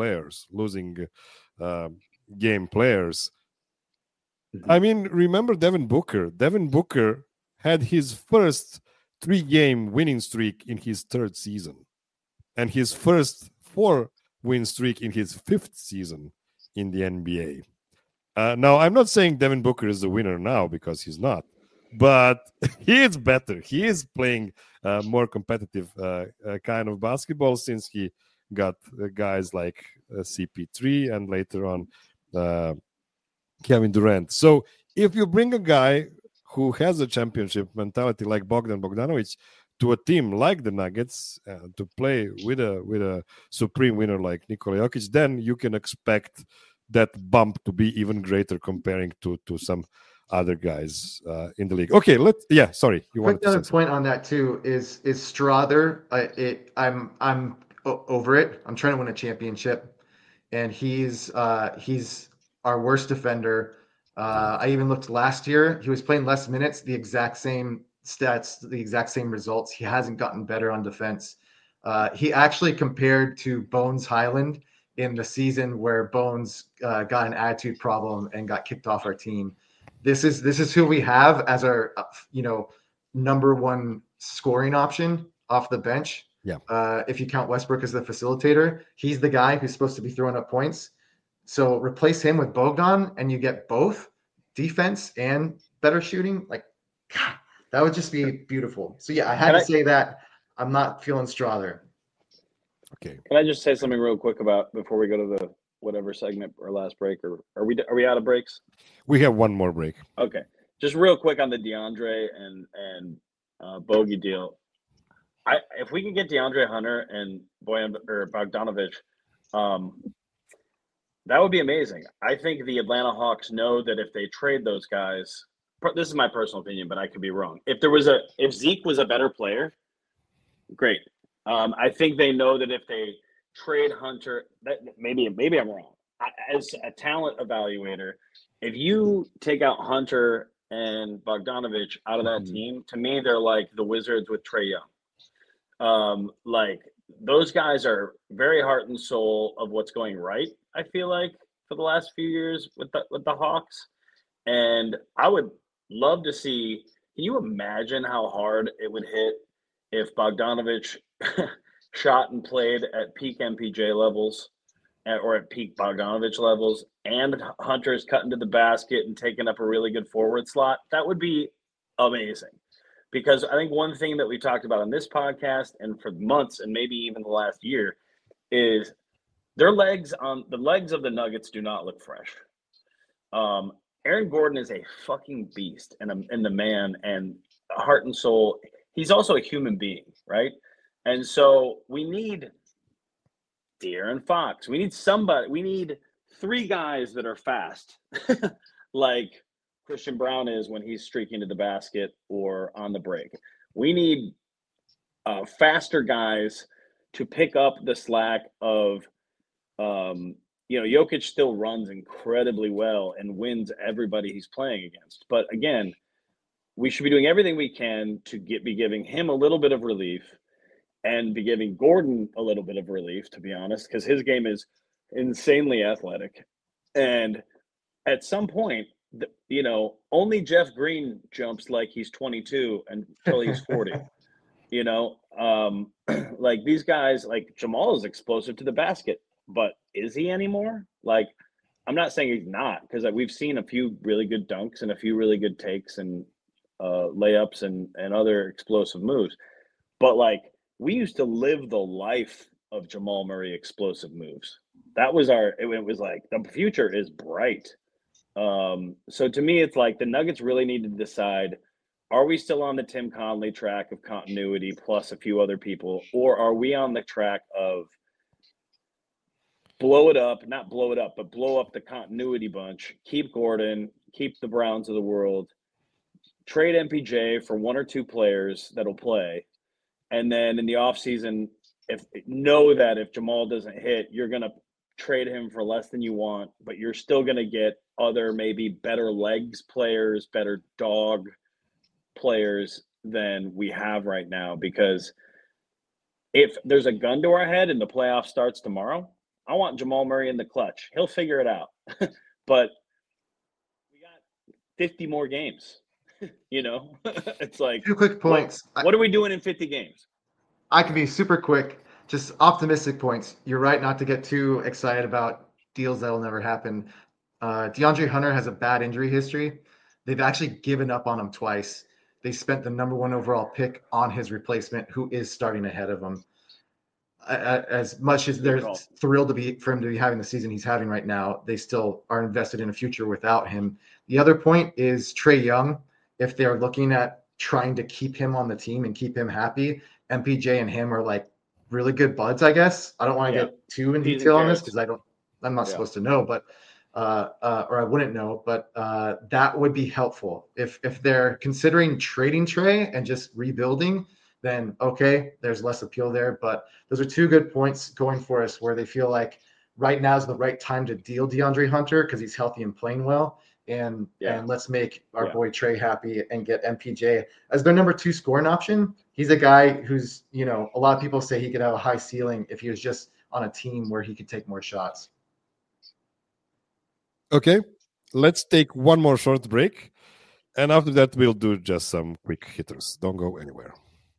game players. Mm-hmm. I mean, remember Devin Booker? Devin Booker had his first 3-game winning streak in his 3rd season and his first 4-win streak in his 5th season in the NBA. Now, I'm not saying Devin Booker is the winner now because he's not, but he is better. He is playing more competitive kind of basketball since he got guys like CP3 and later on Kevin Durant. So if you bring a guy who has a championship mentality like Bogdan Bogdanovic to a team like the Nuggets to play with a supreme winner like Nikola Jokic, then you can expect that bump to be even greater comparing to some other guys in the league. Okay, sorry. You want another point on that too is Strawther. I'm over it. I'm trying to win a championship, and he's our worst defender. I even looked last year. He was playing less minutes, the exact same stats, the exact same results. He hasn't gotten better on defense. He actually compared to Bones Highland in the season where Bones got an attitude problem and got kicked off our team. This is who we have as our number one scoring option off the bench. Yeah. If you count Westbrook as the facilitator, he's the guy who's supposed to be throwing up points. So replace him with Bogdan, and you get both defense and better shooting. Like, God, that would just be beautiful. So yeah, I had to say that I'm not feeling Strawther. Okay. Can I just say something real quick about before we go to the whatever segment or last break, or are we out of breaks? We have one more break. Okay, just real quick on the DeAndre and Bogey deal. If we can get DeAndre Hunter and Bogdanovich, that would be amazing. I think the Atlanta Hawks know that if they trade those guys, this is my personal opinion, but I could be wrong. If Zeke was a better player, great. I think they know that if they trade Hunter, that maybe I'm wrong. As a talent evaluator, if you take out Hunter and Bogdanovich out of that team, to me they're like the Wizards with Trae Young. Like those guys are very heart and soul of what's going right. I feel like for the last few years with the Hawks, and I would love to see. Can you imagine how hard it would hit if Bogdanovich shot and played at peak MPJ levels or at peak Bogdanovich levels, and Hunter's cutting to the basket and taking up a really good forward slot? That would be amazing. Because I think one thing that we talked about on this podcast and for months and maybe even the last year is the legs of the Nuggets do not look fresh. Aaron Gordon is a fucking beast and the man and heart and soul. He's also a human being, right? And so we need De'Aaron Fox. We need somebody. We need three guys that are fast, like Christian Brown is when he's streaking to the basket or on the break. We need faster guys to pick up the slack of, Jokic still runs incredibly well and wins everybody he's playing against. But again, we should be doing everything we can to be giving him a little bit of relief and be giving Gordon a little bit of relief, to be honest, because his game is insanely athletic. And at some point, only Jeff Green jumps like he's 22 until he's 40. Like these guys, like Jamal is explosive to the basket, but is he anymore? Like, I'm not saying he's not, because we've seen a few really good dunks and a few really good takes and layups and other explosive moves. But like, we used to live the life of Jamal Murray explosive moves. That was it was like the future is bright. So to me, it's like the Nuggets really need to decide, are we still on the Tim Conley track of continuity plus a few other people, or are we on the track of blow up the continuity bunch, keep Gordon, keep the Browns of the world, trade MPJ for one or two players that'll play, and then in the offseason, know that if Jamal doesn't hit, you're going to trade him for less than you want, but you're still going to get other maybe better legs players, better dog players than we have right now. Because if there's a gun to our head and the playoff starts tomorrow, I want Jamal Murray in the clutch. He'll figure it out. But we got 50 more games. It's like 2 quick points. What are we doing in 50 games? I can be super quick. Just optimistic points. You're right not to get too excited about deals that will never happen. DeAndre Hunter has a bad injury history. They've actually given up on him twice. They spent the number 1 overall pick on his replacement, who is starting ahead of him. As much as they're thrilled for him to be having the season he's having right now, they still are invested in a future without him. The other point is Trae Young. If they're looking at trying to keep him on the team and keep him happy, MPJ and him are like really good buds, I guess. I don't want to get too in detail on this because I'm not supposed to know, but or I wouldn't know, but that would be helpful. If they're considering trading Trae and just rebuilding, then okay, there's less appeal there. But those are 2 good points going for us where they feel like right now is the right time to deal DeAndre Hunter because he's healthy and playing well. And let's make our boy Trae happy and get MPJ as their number 2 scoring option. He's a guy who's, a lot of people say he could have a high ceiling if he was just on a team where he could take more shots. Okay, let's take one more short break. And after that, we'll do just some quick hitters. Don't go anywhere.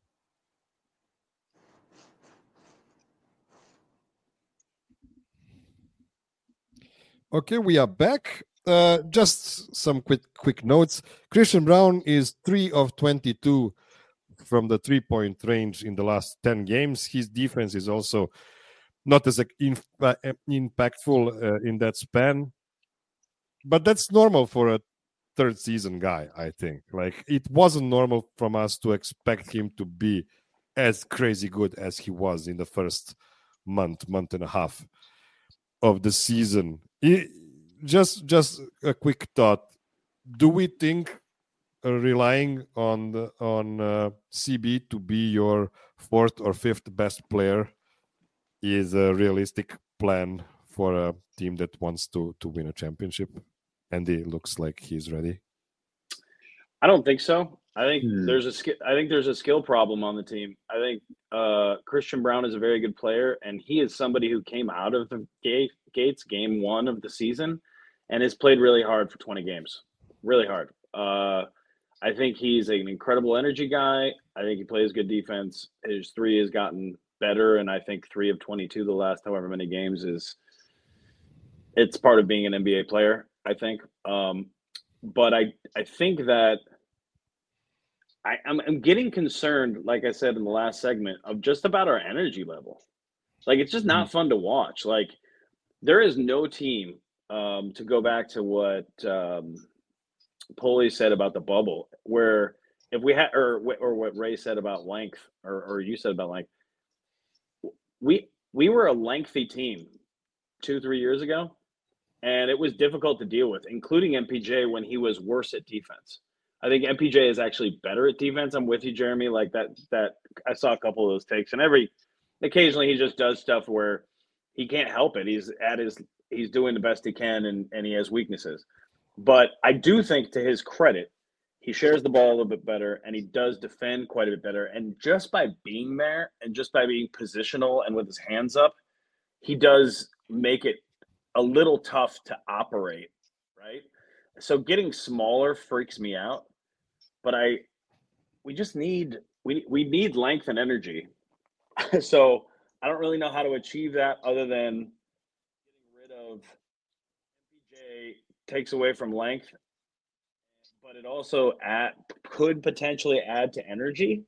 Okay, we are back. Just some quick notes. Christian Brown is 3 of 22 from the 3-point range in the last 10 games. His defense is also not as impactful in that span. But that's normal for a third season guy, I think. Like, it wasn't normal from us to expect him to be as crazy good as he was in the first month and a half of the season. Just a quick thought. Do we think relying on CB to be your 4th or 5th best player is a realistic plan for a team that wants to win a championship? Andy looks like he's ready. I don't think so. I think there's a skill problem on the team. I think Christian Brown is a very good player, and he is somebody who came out of the gates game 1 of the season and has played really hard for 20 games. Really hard. I think he's an incredible energy guy. I think he plays good defense. His three has gotten better, and I think 3 of 22 the last however many games it's part of being an NBA player, I think. But I think that I'm getting concerned, like I said in the last segment, of just about our energy level. Like, it's just not fun to watch. Like, there is no team, to go back to what Pulley said about the bubble, where if we had, or what Ray said about length, or you said about length, we were a lengthy team 2-3 years ago, and it was difficult to deal with, including MPJ when he was worse at defense. I think MPJ is actually better at defense. I'm with you, Jeremy. Like that I saw a couple of those takes, and occasionally he just does stuff where he can't help it. He's doing the best he can, and he has weaknesses. But I do think, to his credit, he shares the ball a little bit better, and he does defend quite a bit better. And just by being there, and just by being positional and with his hands up, he does make it a little tough to operate, right? So getting smaller freaks me out, but we just need length and energy. So I don't really know how to achieve that other than getting rid of MPJ takes away from length, but it also could potentially add to energy.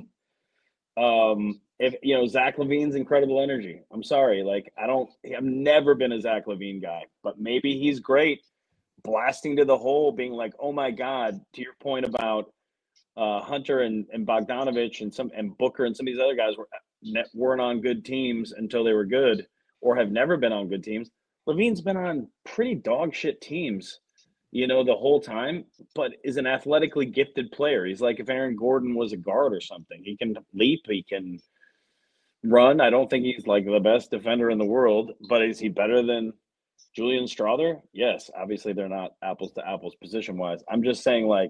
If Zach LaVine's incredible energy. I'm sorry, like I've never been a Zach LaVine guy, but maybe he's great blasting to the hole, being like, oh my God, to your point about Hunter and Bogdanovich and Booker and some of these other guys weren't on good teams until they were good, or have never been on good teams. LaVine's been on pretty dog shit teams, the whole time, but is an athletically gifted player. He's like if Aaron Gordon was a guard or something. He can leap, he can run. I don't think he's like the best defender in the world, but is he better than Julian Strother? Yes. Obviously, they're not apples to apples position-wise. I'm just saying, like,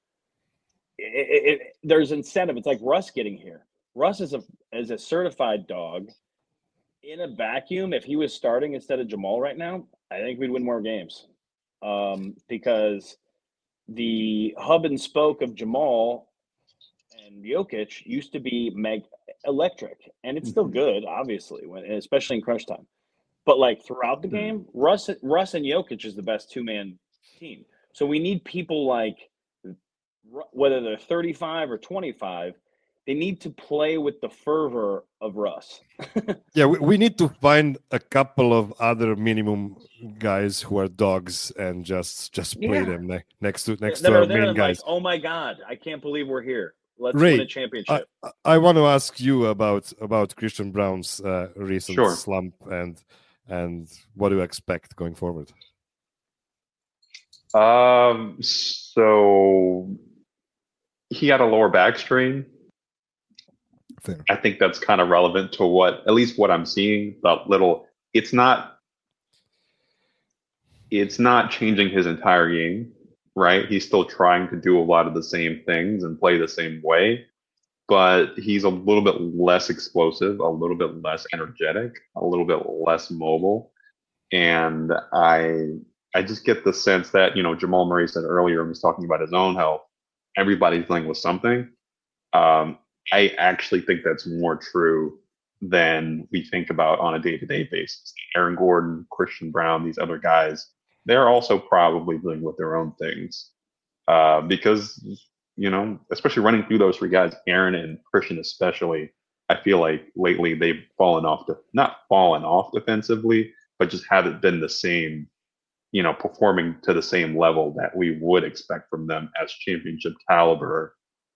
there's incentive. It's like Russ getting here. Russ is a certified dog in a vacuum. If he was starting instead of Jamal right now, I think we'd win more games. Because the hub and spoke of Jamal and Jokic used to be electric, and it's still good, obviously, especially in crunch time. But like throughout the game, Russ and Jokic is the best two-man team. So we need people like, whether they're 35 or 25, they need to play with the fervor of Russ. Yeah, we need to find a couple of other minimum guys who are dogs and just play them next to our main guys. Like, oh my God, I can't believe we're here. Let's win a championship. I want to ask you about Christian Braun's recent slump and what do you expect going forward? So he had a lower back strain. Fair. I think that's kind of relevant to at least what I'm seeing. It's not changing his entire game, right? He's still trying to do a lot of the same things and play the same way, but he's a little bit less explosive, a little bit less energetic, a little bit less mobile. And I just get the sense that, Jamal Murray said earlier, when he was talking about his own health, everybody's dealing with something. I actually think that's more true than we think about on a day-to-day basis. Aaron Gordon, Christian Braun, these other guys, they're also probably dealing with their own things. Because, especially running through those three guys, Aaron and Christian especially, I feel like lately they've not fallen off defensively, but just haven't been the same, performing to the same level that we would expect from them as championship caliber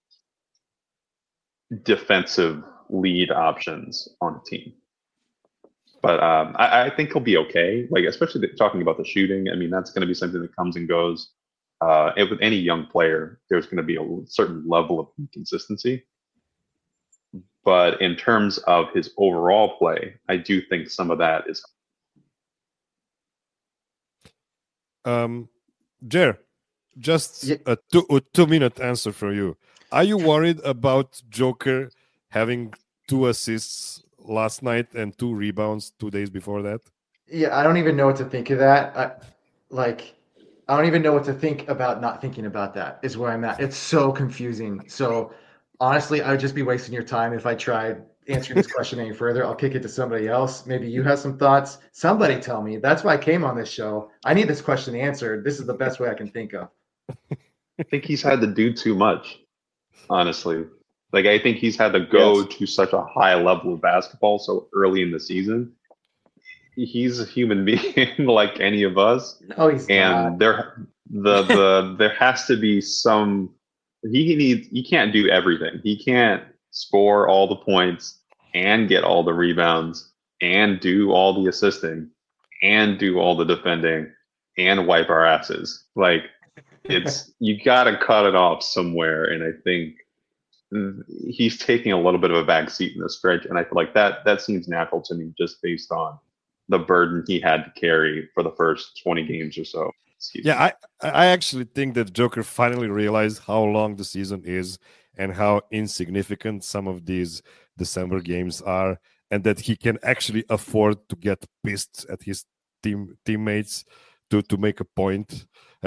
defensive lead options on a team. But I think he'll be okay. Like, especially talking about the shooting. I mean, that's going to be something that comes and goes. With any young player, there's going to be a certain level of inconsistency. But in terms of his overall play, I do think some of that is. Jer, just a 2-minute answer for you. Are you worried about Joker having 2 assists last night and 2 rebounds 2 days before that? Yeah, I don't even know what to think of that. I don't even know what to think about not thinking about that is where I'm at. It's so confusing. So honestly, I would just be wasting your time if I tried answering this question any further. I'll kick it to somebody else. Maybe you have some thoughts. Somebody tell me. That's why I came on this show. I need this question answered. This is the best way I can think of. I think he's had to do too much, honestly. Like, I think he's had to go Yes. to such a high level of basketball so early in the season. He's a human being like any of us, No, he's and not. there has to be some. He can't do everything. He can't score all the points and get all the rebounds and do all the assisting and do all the defending and wipe our asses. Like, it's you got to cut it off somewhere, and I think he's taking a little bit of a back seat in the stretch, and I feel like that seems natural to me just based on the burden he had to carry for the first 20 games or so. Yeah, I actually think that Joker finally realized how long the season is and how insignificant some of these December games are, and that he can actually afford to get pissed at his teammates to make a point.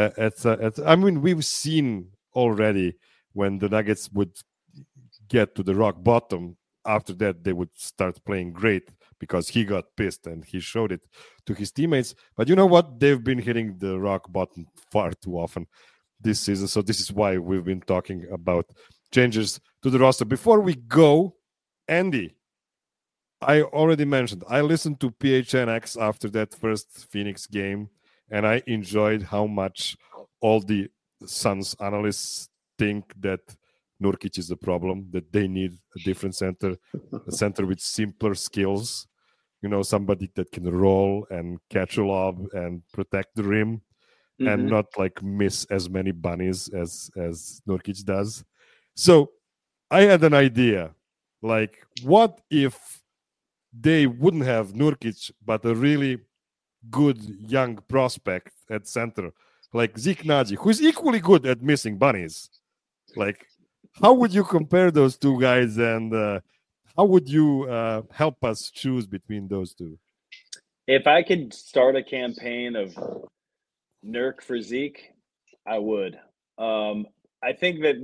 I mean, we've seen already when the Nuggets would get to the rock bottom. After that, they would start playing great because he got pissed and he showed it to his teammates. But you know what? They've been hitting the rock bottom far too often this season. So this is why we've been talking about changes to the roster. Before we go, Andy, I already mentioned I listened to PHNX after that first Phoenix game, and I enjoyed how much all the Suns analysts think that Nurkic is the problem, that they need a different center, a center with simpler skills, somebody that can roll and catch a lob and protect the rim and not like miss as many bunnies as Nurkic does. So I had an idea, like, what if they wouldn't have Nurkic, but a really good young prospect at center, like Zeke Naji, who's equally good at missing bunnies? Like, how would you compare those two guys, and how would you help us choose between those two? If I could start a campaign of Nurk for Zeke, I would. I think that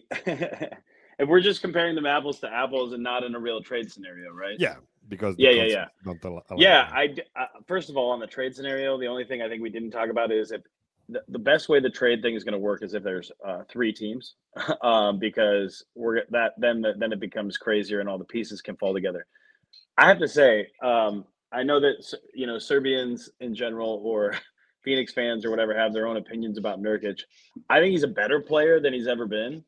if we're just comparing them apples to apples and not in a real trade scenario, right? Yeah, because yeah. Don't allow Yeah, first of all, on the trade scenario, the only thing I think we didn't talk about is if the best way the trade thing is going to work is if there's 3 teams, because then it becomes crazier and all the pieces can fall together. I have to say, I know that Serbians in general or Phoenix fans or whatever have their own opinions about Nurkic. I think he's a better player than he's ever been.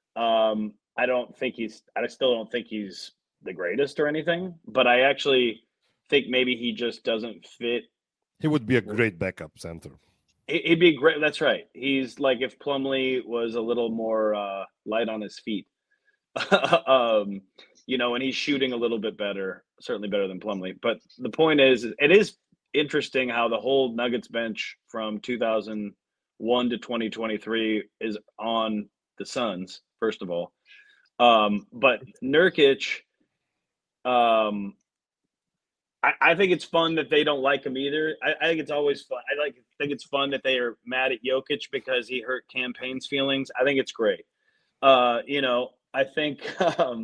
I still don't think he's the greatest or anything, but I actually think maybe he just doesn't fit. He would be a great backup center. He'd be great. That's right. He's like if Plumlee was a little more light on his feet, and he's shooting a little bit better, certainly better than Plumlee. But the point is, it is interesting how the whole Nuggets bench from 2001 to 2023 is on the Suns, first of all. But Nurkic, I think it's fun that they don't like him either. I think it's always fun. I think it's fun that they are mad at Jokic because he hurt Campaign's feelings. I think it's great. I think to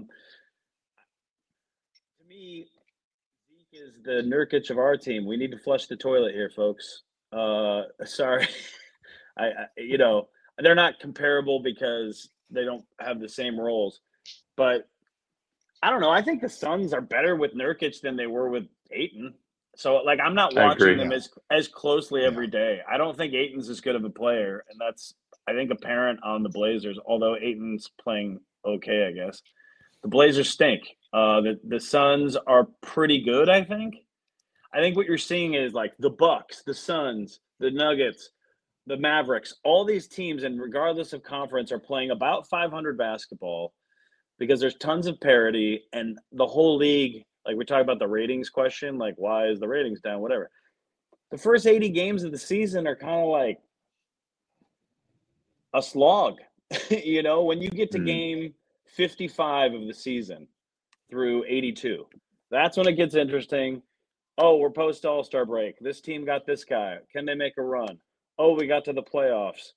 me, Zeke is the Nurkic of our team. We need to flush the toilet here, folks. Sorry, they're not comparable because they don't have the same roles, but I don't know. I think the Suns are better with Nurkic than they were with Ayton. So, like, I'm not watching them as closely every day. I don't think Ayton's as good of a player, and that's, I think, apparent on the Blazers, although Ayton's playing okay, I guess. The Blazers stink. The Suns are pretty good, I think. I think what you're seeing is, like, the Bucks, the Suns, the Nuggets, the Mavericks, all these teams, and regardless of conference, are playing about 500 basketball because there's tons of parity, and the whole league, like we talk about the ratings question, like why is the ratings down, whatever. The first 80 games of the season are kind of like a slog. When you get to game 55 of the season through 82, that's when it gets interesting. Oh, we're post All-Star break. This team got this guy. Can they make a run? oh, we got to the playoffs.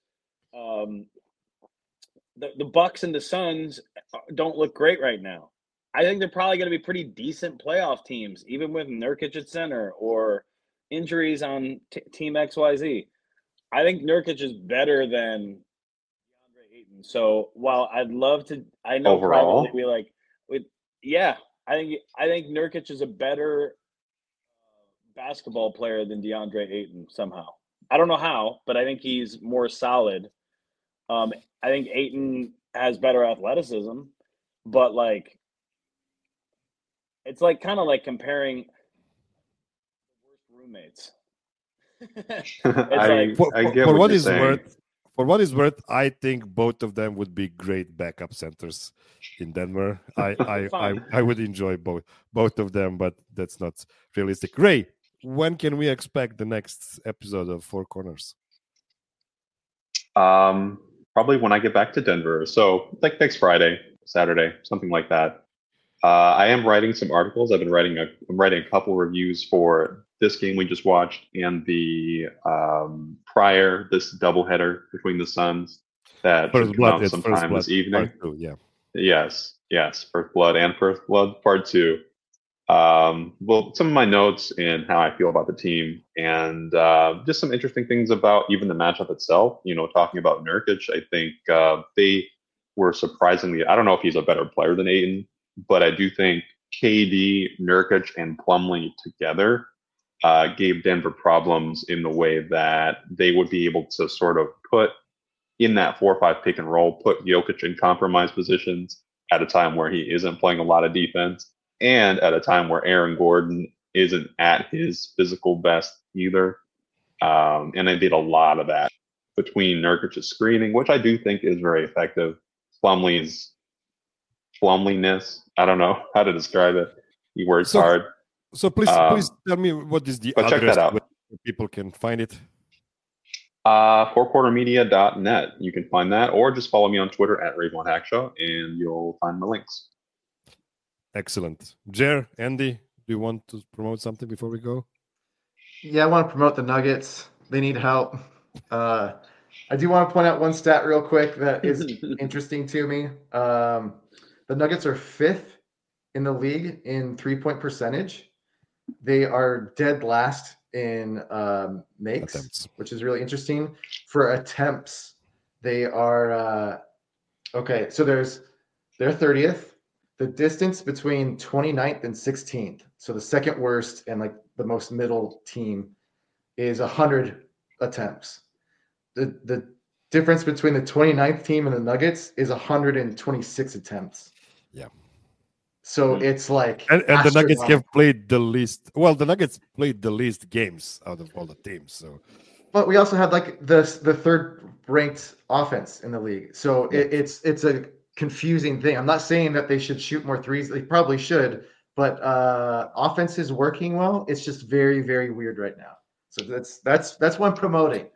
The Bucks and the Suns don't look great right now. I think they're probably going to be pretty decent playoff teams, even with Nurkic at center or injuries on Team XYZ. I think Nurkic is better than DeAndre Ayton. So while I'd love to, I know Overall? privately we like, yeah, I think Nurkic is a better basketball player than DeAndre Ayton somehow. I don't know how, but I think he's more solid. I think Ayton has better athleticism, but like it's like kind of like comparing the worst roommates. I like- I get for what what you're is saying. worth, I think both of them would be great backup centers in Denver. Fine. I would enjoy both of them, but that's not realistic. Ray, when can we expect the next episode of Four Corners? Probably when I get back to Denver. So like next Friday, Saturday, something like that. I am writing some articles. I'm writing a couple reviews for this game we just watched and the this doubleheader between the Suns that should come out sometime this evening. Part 2, yeah. Yes, First Blood and First Blood Part 2. Well, some of my notes and how I feel about the team, and just some interesting things about even the matchup itself. You know, talking about Nurkic, I think they were surprisingly. I don't know if he's a better player than Ayton, but I do think KD, Nurkic, and Plumlee together gave Denver problems in the way that they would be able to sort of put in that 4-5 pick and roll, put Jokic in compromised positions at a time where he isn't playing a lot of defense, and at a time where Aaron Gordon isn't at his physical best either. And they did a lot of that between Nurkic's screening, which I do think is very effective. Plumlee's Plumliness, I don't know how to describe it. He works hard. So please tell me what is the but check address that out. where people can find it. fourquartermedia.net. You can find that, or just follow me on Twitter at RaveOneHackshaw, and you'll find the links. Excellent. Jer, Andy, do you want to promote something before we go? Yeah, I want to promote the Nuggets. They need help. I do want to point out one stat real quick that is interesting to me. The Nuggets are 5th in the league in 3-point percentage. They are dead last in makes, Attempts. which is really interesting. For attempts, they are okay. So they're 30th. The distance between 29th and 16th, so the second worst and like the most middle team, is 100 attempts. The difference between the 29th team and the Nuggets is 126 attempts. Yeah. So it's like And the Nuggets astronomical. have played the least. Well, the Nuggets played the least games out of all the teams. So, But we also have like the third ranked offense in the league. So it's a confusing thing. I'm not saying that they should shoot more threes. They probably should, but offense is working well. It's just very, very weird right now. So that's what I'm promoting.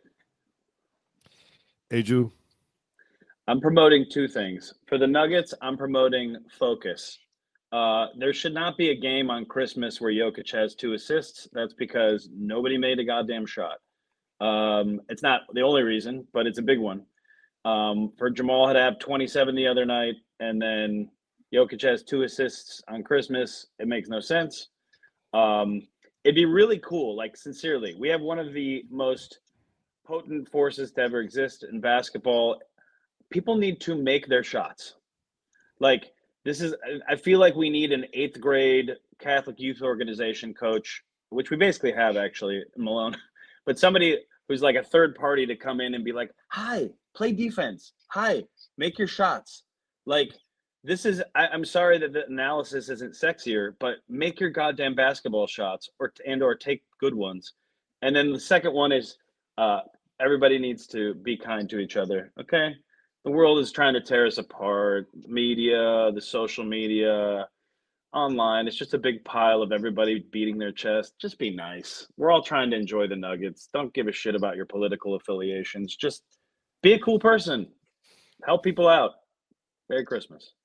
Aju, I'm promoting two things. For the Nuggets, I'm promoting focus. There should not be a game on Christmas where Jokic has 2 assists. That's because nobody made a goddamn shot. It's not the only reason, but it's a big one. For Jamal to have 27 the other night, and then Jokic has 2 assists on Christmas, it makes no sense. It'd be really cool, like sincerely. We have one of the most potent forces to ever exist in basketball. People need to make their shots. Like I feel like we need an 8th grade Catholic youth organization coach, which we basically have actually, Malone, but somebody who's like a third party to come in and be like, hi, play defense. Hi, make your shots. Like I'm sorry that the analysis isn't sexier, but make your goddamn basketball shots or take good ones. And then the second one is everybody needs to be kind to each other. Okay. The world is trying to tear us apart. Media, the social media, online. It's just a big pile of everybody beating their chest. Just be nice. We're all trying to enjoy the Nuggets. Don't give a shit about your political affiliations. Just be a cool person. Help people out. Merry Christmas.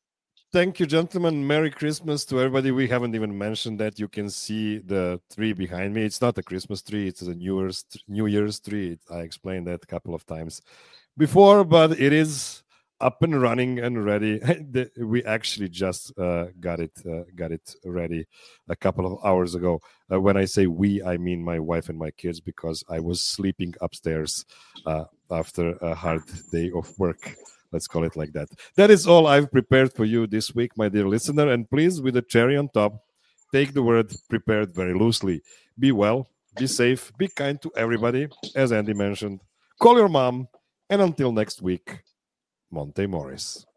Thank you, gentlemen. Merry Christmas to everybody. We haven't even mentioned that. You can see the tree behind me. It's not a Christmas tree. It's a New Year's tree. I explained that a couple of times before, but it is up and running and ready. We actually just got it ready a couple of hours ago. When I say we, I mean my wife and my kids, because I was sleeping upstairs after a hard day of work. Let's call it like that. That is all I've prepared for you this week, my dear listener. And please, with a cherry on top, take the word prepared very loosely. Be well, be safe, be kind to everybody, as Andy mentioned. Call your mom, and until next week, Monte Morris.